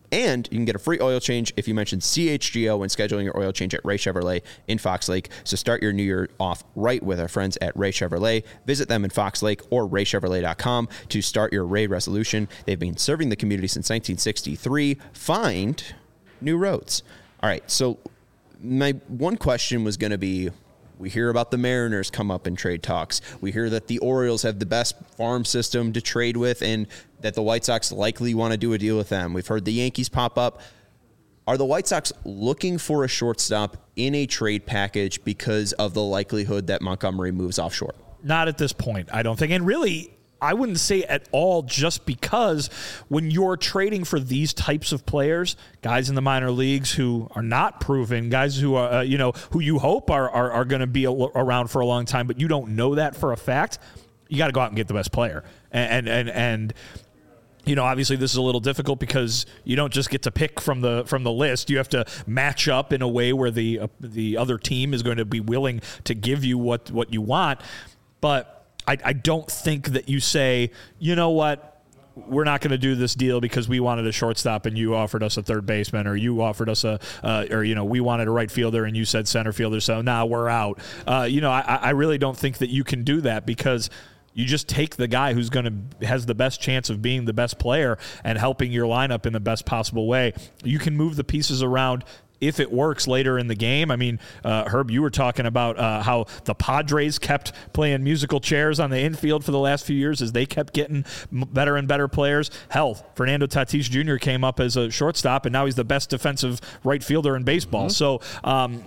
And you can get a free oil change if you mention CHGO when scheduling your oil change at Ray Chevrolet in Fox Lake. So start your new year off right with our friends at Ray Chevrolet. Visit them in Fox Lake or raychevrolet.com to start your Ray resolution. They've been serving the community since 1963. Find new roads. All right, so my one question was going to be, we hear about the Mariners come up in trade talks. We hear that the Orioles have the best farm system to trade with and that the White Sox likely want to do a deal with them. We've heard the Yankees pop up. Are the White Sox looking for a shortstop in a trade package because of the likelihood that Montgomery moves offshore? Not at this point, I don't think. And really, I wouldn't say at all, just because when you're trading for these types of players, guys in the minor leagues who are not proven, guys who are, who you hope are going to be around for a long time, but you don't know that for a fact, you got to go out and get the best player. And obviously this is a little difficult because you don't just get to pick from the list. You have to match up in a way where the other team is going to be willing to give you what you want. But I don't think that you say, you know what, we're not going to do this deal because we wanted a shortstop and you offered us a third baseman, or you offered us we wanted a right fielder and you said center fielder, so now we're out. I really don't think that you can do that, because you just take the guy who's has the best chance of being the best player and helping your lineup in the best possible way. You can move the pieces around if it works later in the game. I mean, Herb, you were talking about how the Padres kept playing musical chairs on the infield for the last few years as they kept getting better and better players. Hell, Fernando Tatis Jr. came up as a shortstop, and now he's the best defensive right fielder in baseball. So, I'm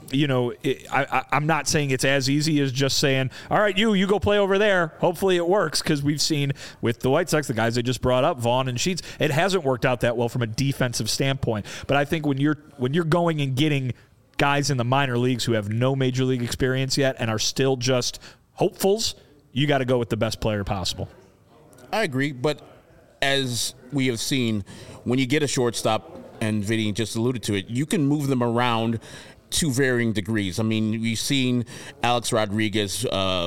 not saying it's as easy as just saying, all right, you go play over there. Hopefully it works, because we've seen with the White Sox, the guys they just brought up, Vaughn and Sheets, it hasn't worked out that well from a defensive standpoint. But I think when you're going and getting guys in the minor leagues who have no major league experience yet and are still just hopefuls, you got to go with the best player possible. I agree, but as we have seen, when you get a shortstop, and Vinny just alluded to it, you can move them around to varying degrees. I mean, we've seen Alex Rodriguez,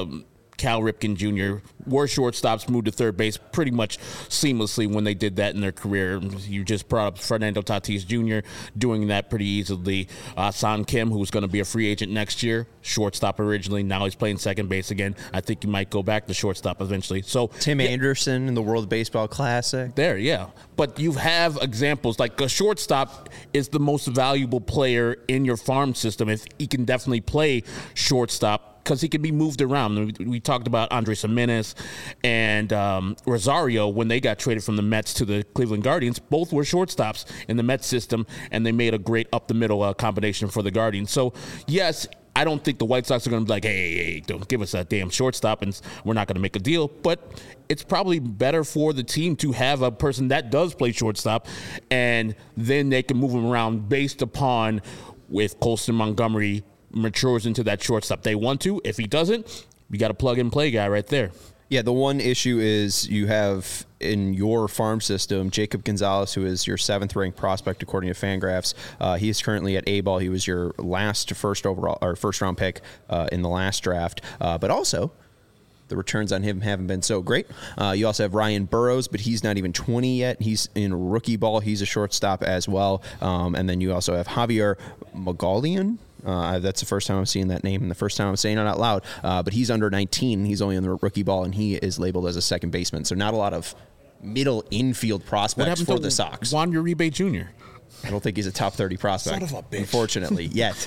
Cal Ripken Jr. were shortstops, moved to third base pretty much seamlessly when they did that in their career. You just brought up Fernando Tatis Jr. doing that pretty easily. Son Kim, who's going to be a free agent next year, shortstop originally. Now he's playing second base again. I think he might go back to shortstop eventually. So Tim Anderson in the World Baseball Classic. There, yeah. But you have examples like a shortstop is the most valuable player in your farm system if he can definitely play shortstop, because he can be moved around. We talked about Andres Gimenez and Rosario when they got traded from the Mets to the Cleveland Guardians. Both were shortstops in the Mets system, and they made a great up-the-middle combination for the Guardians. So, yes, I don't think the White Sox are going to be like, hey, don't give us that damn shortstop, and we're not going to make a deal. But it's probably better for the team to have a person that does play shortstop, and then they can move him around based upon with Colson Montgomery matures into that shortstop they want to. If he doesn't, you got a plug-and-play guy right there. Yeah, the one issue is you have in your farm system Jacob Gonzalez, who is your 7th-ranked prospect according to Fangraphs. He is currently at A-ball. He was your last first-round pick in the last draft. But also, the returns on him haven't been so great. You also have Ryan Burrows, but he's not even 20 yet. He's in rookie ball. He's a shortstop as well. And then you also have Javier Magalian. That's the first time I'm seeing that name and the first time I'm saying it out loud. But he's under 19. He's only in the rookie ball, and he is labeled as a second baseman. So not a lot of middle infield prospects for the Sox. Juan Uribe Jr. I don't think he's a top 30 prospect, Son of a bitch. Unfortunately, yet.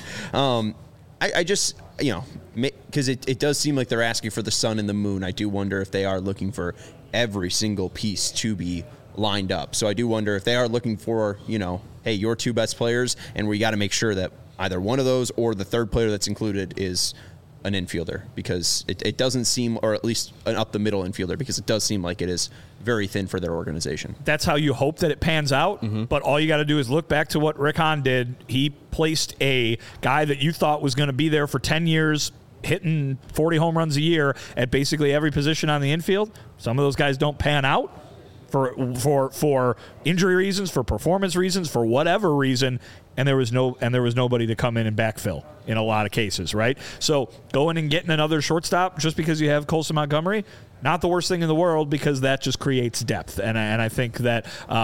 I just, because it does seem like they're asking for the sun and the moon. I do wonder if they are looking for every single piece to be lined up. So I do wonder if they are looking for, hey, your two best players, and we got to make sure that either one of those or the third player that's included is an infielder, because it doesn't seem, or at least an up-the-middle infielder, because it does seem like it is very thin for their organization. That's how you hope that it pans out, but all you got to do is look back to what Rick Hahn did. He placed a guy that you thought was going to be there for 10 years, hitting 40 home runs a year at basically every position on the infield. Some of those guys don't pan out. for injury reasons, for performance reasons, for whatever reason, and there was nobody to come in and backfill in a lot of cases, right? So going and getting another shortstop just because you have Colson Montgomery, not the worst thing in the world, because that just creates depth, and I think that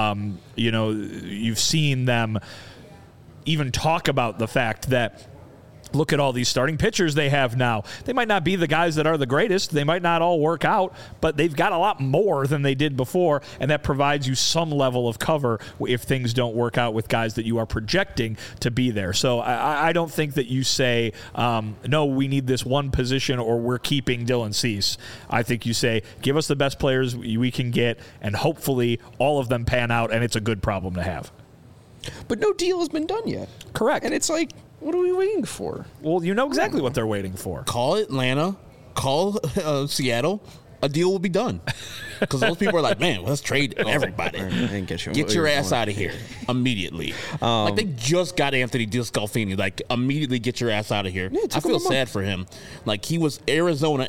you've seen them even talk about the fact that, look at all these starting pitchers they have now. They might not be the guys that are the greatest. They might not all work out, but they've got a lot more than they did before, and that provides you some level of cover if things don't work out with guys that you are projecting to be there. So I don't think that you say, no, we need this one position or we're keeping Dylan Cease. I think you say, give us the best players we can get, and hopefully all of them pan out, and it's a good problem to have. But no deal has been done yet. Correct. And it's like, what are we waiting for? Well, you know exactly what they're waiting for. Call Atlanta, call Seattle. A deal will be done. Because those people are like, man, let's trade everybody. I didn't get you. Get your ass out of here immediately. Like, they just got Anthony DeScalfini. Like, immediately get your ass out of here. I feel sad for him. Like, he was Arizona.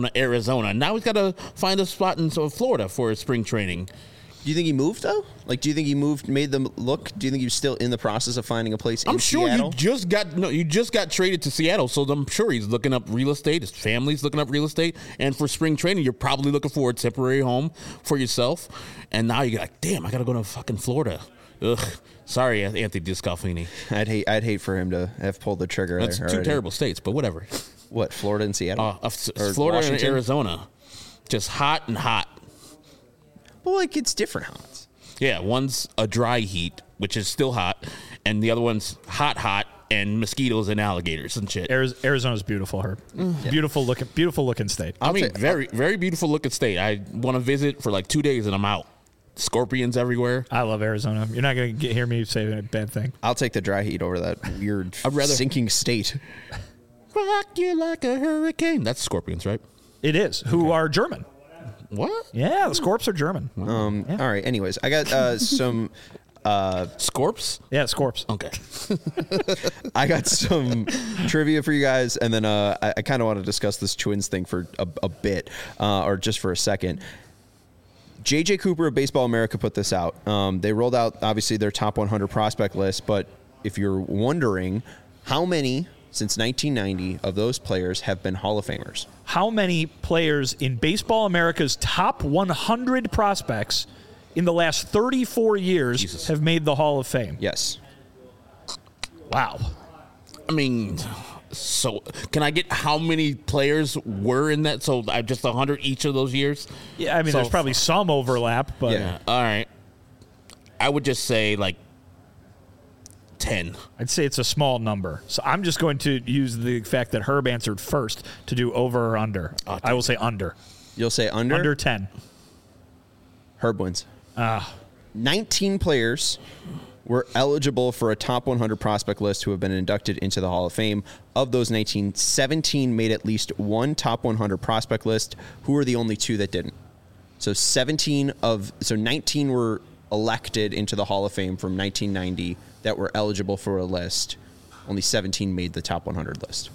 Now he's got to find a spot in Florida for his spring training. Do you think he moved, though? Like, do you think he made them look? Do you think he was still in the process of finding a place in Seattle? I'm sure you just got traded to Seattle, so I'm sure he's looking up real estate. His family's looking up real estate. And for spring training, you're probably looking for a temporary home for yourself. And now you're like, damn, I got to go to fucking Florida. Ugh. Sorry, Anthony DeScalfini. I'd hate for him to have pulled the trigger. That's there two already. terrible states, but whatever. What, Florida and Seattle? Florida Washington? and Arizona. Just hot and hot. Well, like, it's different hots. Yeah, one's a dry heat, which is still hot, and the other one's hot, and mosquitoes and alligators and shit. Arizona's beautiful, Herb. Yeah. Beautiful looking state. Very, very beautiful looking state. I want to visit for like 2 days, and I'm out. Scorpions everywhere. I love Arizona. You're not going to hear me say a bad thing. I'll take the dry heat over that weird sinking state. Rock you like a hurricane. That's Scorpions, right? It is. Who are German. What? Yeah, the Scorps are German. Yeah. All right. Anyways, I got some Scorps? Yeah, Scorps. Okay. I got some trivia for you guys, and then I kind of want to discuss this Twins thing for a bit, or just for a second. J.J. Cooper of Baseball America put this out. They rolled out, obviously, their top 100 prospect list, but if you're wondering, how many since 1990 of those players have been Hall of Famers? How many players in Baseball America's top 100 prospects in the last 34 years have made the Hall of Fame? Yes. Wow. I mean, so can I get how many players were in that? So just 100 each of those years? Yeah, I mean, there's probably some overlap, but yeah. All right. I would just say like 10. I'd say it's a small number. So I'm just going to use the fact that Herb answered first to do over or under. I will say under. You'll say under? Under 10. Herb wins. 19 players were eligible for a top 100 prospect list who have been inducted into the Hall of Fame. Of those 19, 17 made at least one top 100 prospect list. Who are the only two that didn't? So 19 were elected into the Hall of Fame from 1990 that were eligible for a list. Only 17 made the top 100 list.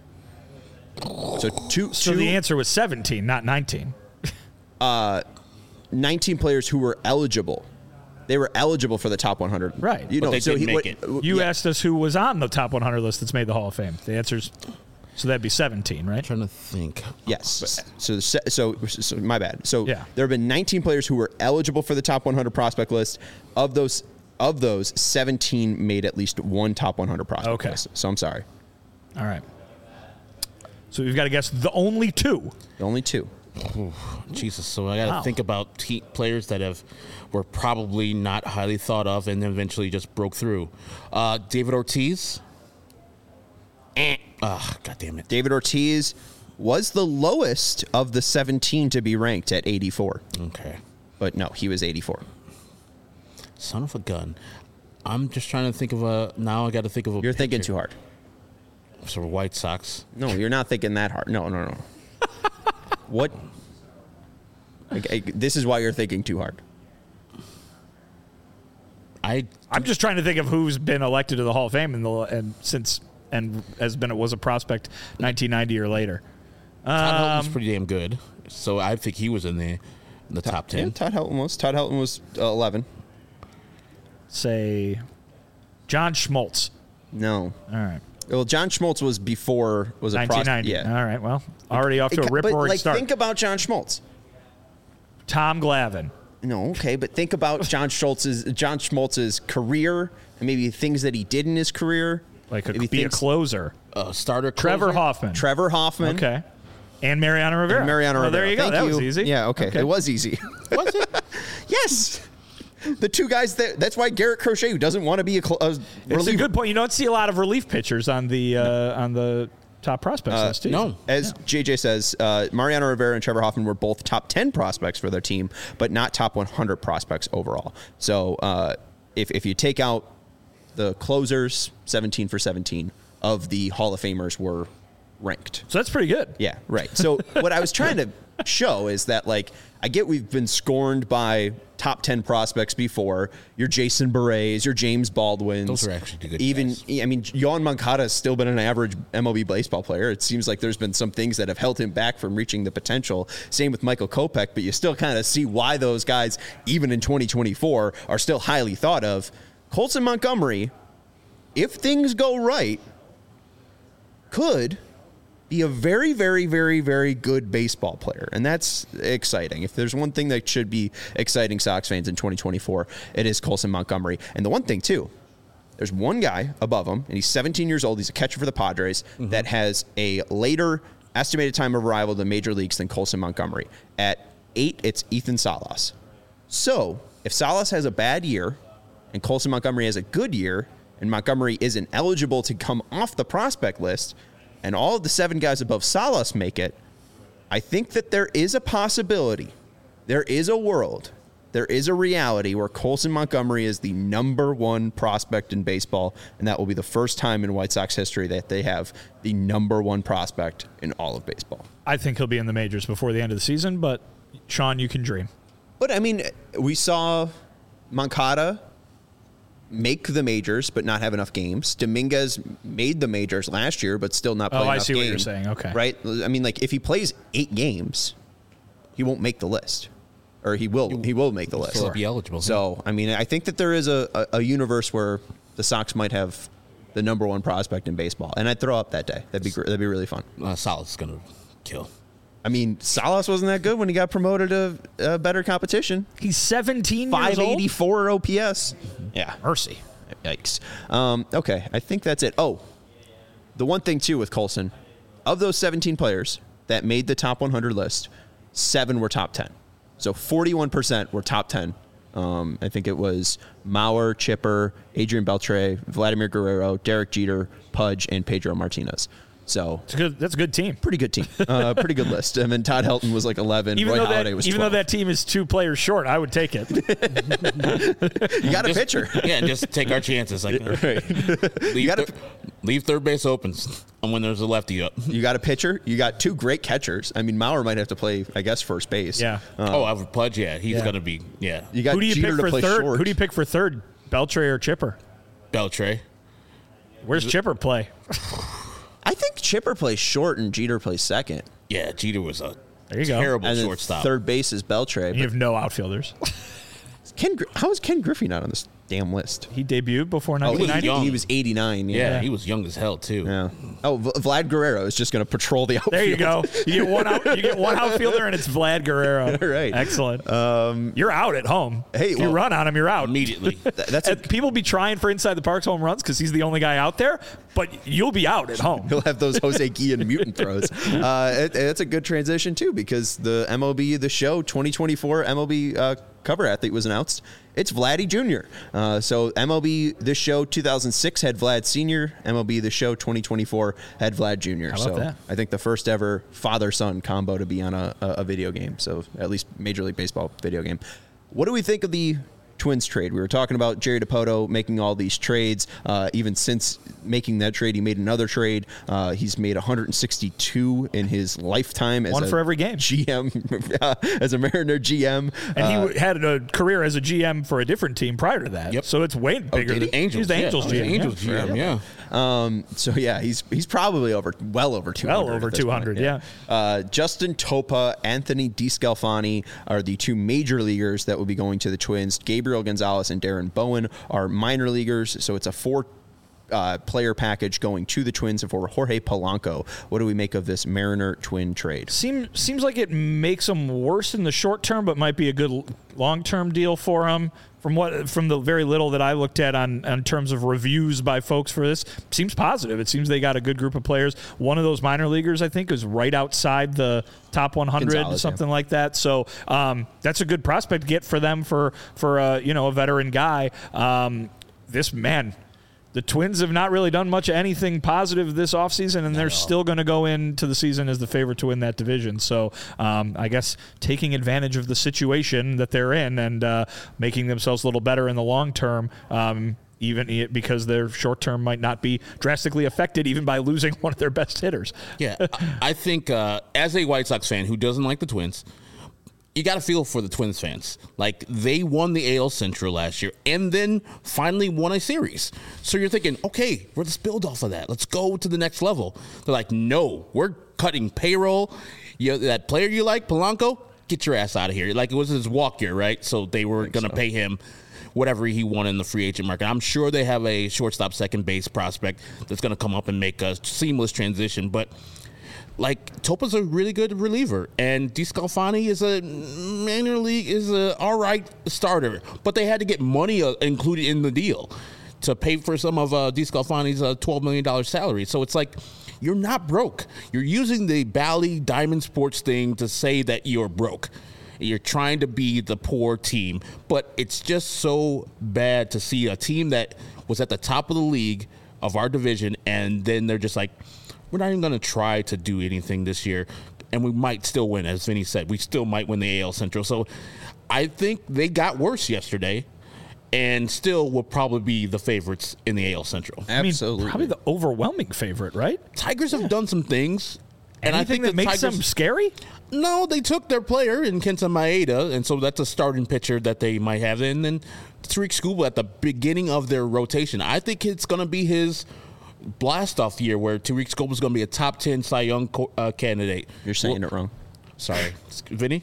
So the answer was 17, not 19. 19 players who were eligible. They were eligible for the top 100. Right. But they didn't make it. You asked us who was on the top 100 list that's made the Hall of Fame. The answer's, so that'd be 17, right? I'm trying to think. Yes. So my bad. So yeah. There have been 19 players who were eligible for the top 100 prospect list. Of those, 17 made at least one top 100 prospect list. So I'm sorry. All right. So we've got to guess the only two. The only two. Ooh, Jesus. So I got to think about players that were probably not highly thought of and then eventually just broke through. David Ortiz. God damn it. David Ortiz was the lowest of the 17 to be ranked at 84. Okay. But no, he was 84. Son of a gun. I'm just trying to think of now I got to think of a You're thinking too hard. So White Sox. No, you're not thinking that hard. No. What? This is why you're thinking too hard. I'm just trying to think of who's been elected to the Hall of Fame was a prospect 1990 or later. Todd Helton's pretty damn good, so I think he was in there. in the top 10. Yeah, Todd Helton was. Todd Helton was 11. Say John Schmaltz. No. All right. Well, John Schmaltz was before, was a 1990. Yeah. All right. Well, already off to a rip-roaring start. Think about John Schmaltz. Tom Glavine. No, okay, but think about John Schmaltz's career and maybe things that he did in his career. Like Maybe be a things- closer. Starter Trevor closer? Hoffman. Trevor Hoffman. Okay. And Mariano Rivera. And Mariano Oh, Rivera. there you go. Thank That you. was easy. Yeah, okay. It was easy. Was it? Yes. The two guys that's why Garrett Crochet, who doesn't want to be a It's reliever. a good point. You don't see a lot of relief pitchers on the top prospects list, do you? No. As JJ says, Mariano Rivera and Trevor Hoffman were both top 10 prospects for their team, but not top 100 prospects overall. So if you take out the closers, 17 for 17 of the Hall of Famers were ranked. So that's pretty good. Yeah, right. So what I was trying to show is that, like, I get we've been scorned by top 10 prospects before. Your Jason Berets, your James Baldwins. Those are actually good Even, guys. I mean, Yohan Moncada has still been an average MLB baseball player. It seems like there's been some things that have held him back from reaching the potential. Same with Michael Kopech, but you still kind of see why those guys, even in 2024, are still highly thought of. Colson Montgomery, if things go right, could be a very, very, very, very good baseball player. And that's exciting. If there's one thing that should be exciting Sox fans in 2024, it is Colson Montgomery. And the one thing, too, there's one guy above him, and he's 17 years old. He's a catcher for the Padres that has a later estimated time of arrival to the major leagues than Colson Montgomery. At 8, it's Ethan Salas. So if Salas has a bad year and Colson Montgomery has a good year and Montgomery isn't eligible to come off the prospect list, and all of the 7 guys above Salas make it, I think that there is a possibility, there is a world, there is a reality where Colson Montgomery is the number 1 prospect in baseball, and that will be the first time in White Sox history that they have the number 1 prospect in all of baseball. I think he'll be in the majors before the end of the season, but Sean, you can dream. But, I mean, we saw Moncada make the majors but not have enough games. Dominguez made the majors last year but still not play enough games. I see what you're saying. Okay. Right? I mean, like, if he plays 8 games, he won't make the list. Or he will make the list. Still be eligible. So, I mean, I think that there is a universe where the Sox might have the number 1 prospect in baseball. And I'd throw up that day. That'd be really fun. Salas is going to kill. I mean, Salas wasn't that good when he got promoted to better competition. He's 17 years old. 584 OPS. Yeah. Mercy. Yikes. Okay, I think that's it. Oh, the one thing, too, with Colson, of those 17 players that made the top 100 list, 7 were top 10. So 41% were top 10. I think it was Mauer, Chipper, Adrian Beltre, Vladimir Guerrero, Derek Jeter, Pudge, and Pedro Martinez. So that's a good team. pretty good team. Pretty good list. I mean, Todd Helton was like 11. Roy Halladay was 12. Even though that team is 2 players short, I would take it. You got a pitcher. Yeah, just take our chances. Like, leave third base open when there's a lefty up. You got a pitcher. You got 2 great catchers. I mean, Mauer might have to play, I guess, first base. Yeah. Alfred Pudge, yeah. He's going to be, yeah. You got Who do you Jeter pick to for play third? short. Who do you pick for third? Beltre or Chipper? Beltre. Where's Chipper play? I think Chipper plays short and Jeter plays second. Yeah, Jeter was a There you go. terrible And then shortstop. third base is Beltre. You have no outfielders. How is Ken Griffey not on this damn list? He debuted before was 1990. young. He was 89. yeah, he was young as hell, too. Yeah. Oh, Vlad Guerrero is just going to patrol the outfield. There you go. You get one outfielder, and it's Vlad Guerrero. Right. Excellent. You're out at home. Hey, if you run on him, you're out Immediately. That's And people be trying for inside the park's home runs because he's the only guy out there, but you'll be out at home. He'll have those Jose Guillen mutant throws. It's a good transition, too, because the MLB The Show 2024 MLB cover athlete was announced. It's Vladdy Jr. So MLB The Show 2006 had Vlad Sr. MLB The Show 2024 had Vlad Jr. How about So that? I think the first ever father-son combo to be on a video game. So at least Major League Baseball video game. What do we think of the Twins trade? We were talking about Jerry Dipoto making all these trades. Even since making that trade, he made another trade. He's made 162 in his lifetime as One for every game. GM, as a Mariner GM. And he had a career as a GM for a different team prior to that. Yep. So it's way bigger. The Angels. He's the Angels yeah. GM. Angels yeah. GM, So yeah, he's probably well over 200. Well over 200, yeah. Justin Topa, Anthony DeScalfani are the two major leaguers that will be going to the Twins. Gabriel Gonzalez and Darren Bowen are minor leaguers, so it's a 4-player package going to the Twins for Jorge Polanco. What do we make of this Mariner-Twin trade? Seems like it makes them worse in the short term, but might be a good long-term deal for them. From the very little that I looked at on terms of reviews by folks for this, seems positive. It seems they got a good group of players. One of those minor leaguers, I think, is right outside the top 100, Gonzalez, something like that. So that's a good prospect to get for them for a veteran guy. The Twins have not really done much of anything positive this offseason, and they're still going to go into the season as the favorite to win that division. So I guess taking advantage of the situation that they're in and making themselves a little better in the long term, even because their short term might not be drastically affected even by losing one of their best hitters. Yeah, I think as a White Sox fan who doesn't like the Twins, you got to feel for the Twins fans. Like, they won the AL Central last year and then finally won a series. So you're thinking, okay, let's build off of that. Let's go to the next level. They're like, no, we're cutting payroll. That player you like, Polanco, get your ass out of here. Like, it was his walk year, right? So they were going to pay him whatever he won in the free agent market. I'm sure they have a shortstop, second base prospect that's going to come up and make a seamless transition. But like, Topa's a really good reliever, and DeScalfani is a all right starter. But they had to get money included in the deal to pay for some of DeScalfani's $12 million salary. So it's like, you're not broke. You're using the Bally Diamond Sports thing to say that you're broke. You're trying to be the poor team. But it's just so bad to see a team that was at the top of the league of our division, and then they're just like, we're not even going to try to do anything this year, and we might still win. As Vinny said, we still might win the AL Central. So I think they got worse yesterday and still will probably be the favorites in the AL Central. Absolutely. I mean, probably the overwhelming favorite, right? Tigers have done some things. And I think that makes them scary? No, they took their player in Kenta Maeda, and so that's a starting pitcher that they might have. And then Tariq Skubal at the beginning of their rotation. I think it's going to be his blast-off year where Tariq Skubal is going to be a top 10 Cy Young candidate. You're saying it wrong. Sorry. Vinny?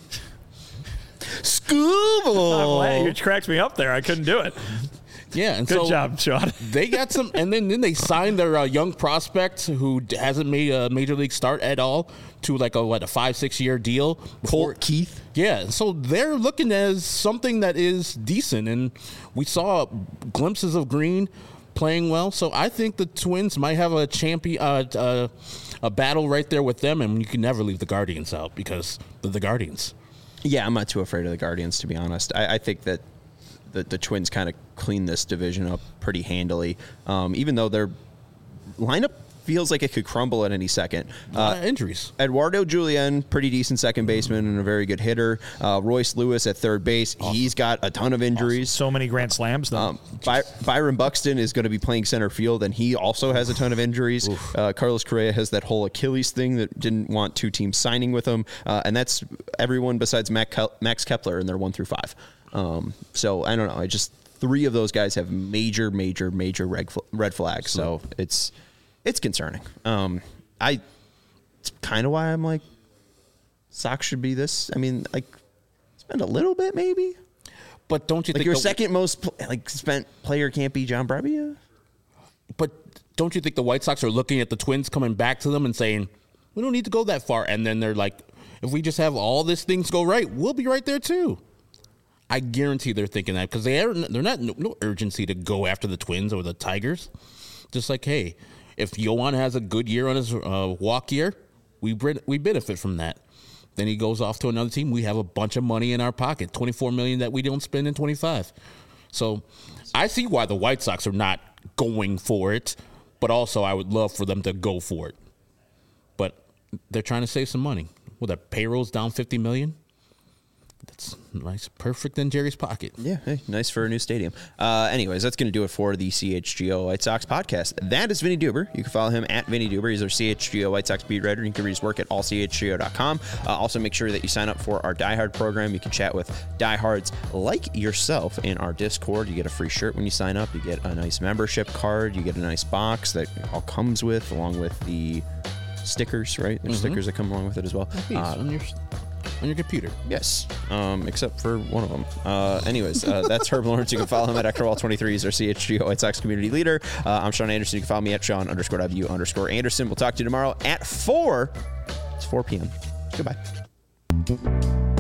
Skubal! You cracked me up there. I couldn't do it. Yeah, and Good job, Sean. They got some, and then they signed their young prospect who hasn't made a major league start at all to like a 5-6 year deal. Colt Keith. Yeah, so they're looking as something that is decent, and we saw glimpses of Green playing well. So I think the Twins might have a champion, a battle right there with them, and you can never leave the Guardians out because they're the Guardians. Yeah, I'm not too afraid of the Guardians, to be honest. I think that the Twins kind of clean this division up pretty handily, even though their lineup feels like it could crumble at any second. Injuries. Eduardo Julian, pretty decent second baseman and a very good hitter. Royce Lewis at third base. Awesome. He's got a ton of injuries. Awesome. So many grand slams, though. Byron Buxton is going to be playing center field, and he also has a ton of injuries. Carlos Correa has that whole Achilles thing that didn't want two teams signing with him, and that's everyone besides Max Kepler in their 1 through 5. So I don't know. Three of those guys have major red flags. So it's concerning. It's kind of why I'm like, Sox should be this. I mean, like, spend a little bit maybe. But don't you think your second most spent player can't be John Brebbia? But don't you think the White Sox are looking at the Twins coming back to them and saying, we don't need to go that far? And then they're like, if we just have all these things go right, we'll be right there too. I guarantee they're thinking that because they're not no urgency to go after the Twins or the Tigers. Just like, hey, if Yohan has a good year on his walk year, we benefit from that. Then he goes off to another team. We have a bunch of money in our pocket, $24 million that we don't spend in 25. So I see why the White Sox are not going for it, but also I would love for them to go for it. But they're trying to save some money. Well, their payroll's down $50 million. That's nice. Perfect in Jerry's pocket. Yeah, hey, nice for a new stadium. Anyways, that's going to do it for the CHGO White Sox podcast. That is Vinny Duber. You can follow him at Vinny Duber. He's our CHGO White Sox beat writer. You can read his work at allchgo.com. Also, make sure that you sign up for our Die Hard program. You can chat with diehards like yourself in our Discord. You get a free shirt when you sign up. You get a nice membership card. You get a nice box that all comes with, along with the stickers, right? There's stickers that come along with it as well. On your computer. Yes, except for one of them. Anyways, that's Herb Lawrence. You can follow him at Ectorwall23. He's our CHGO White Sox community leader. I'm Sean Anderson. You can follow me at Sean_W_Anderson. We'll talk to you tomorrow at 4. It's 4 p.m. Goodbye.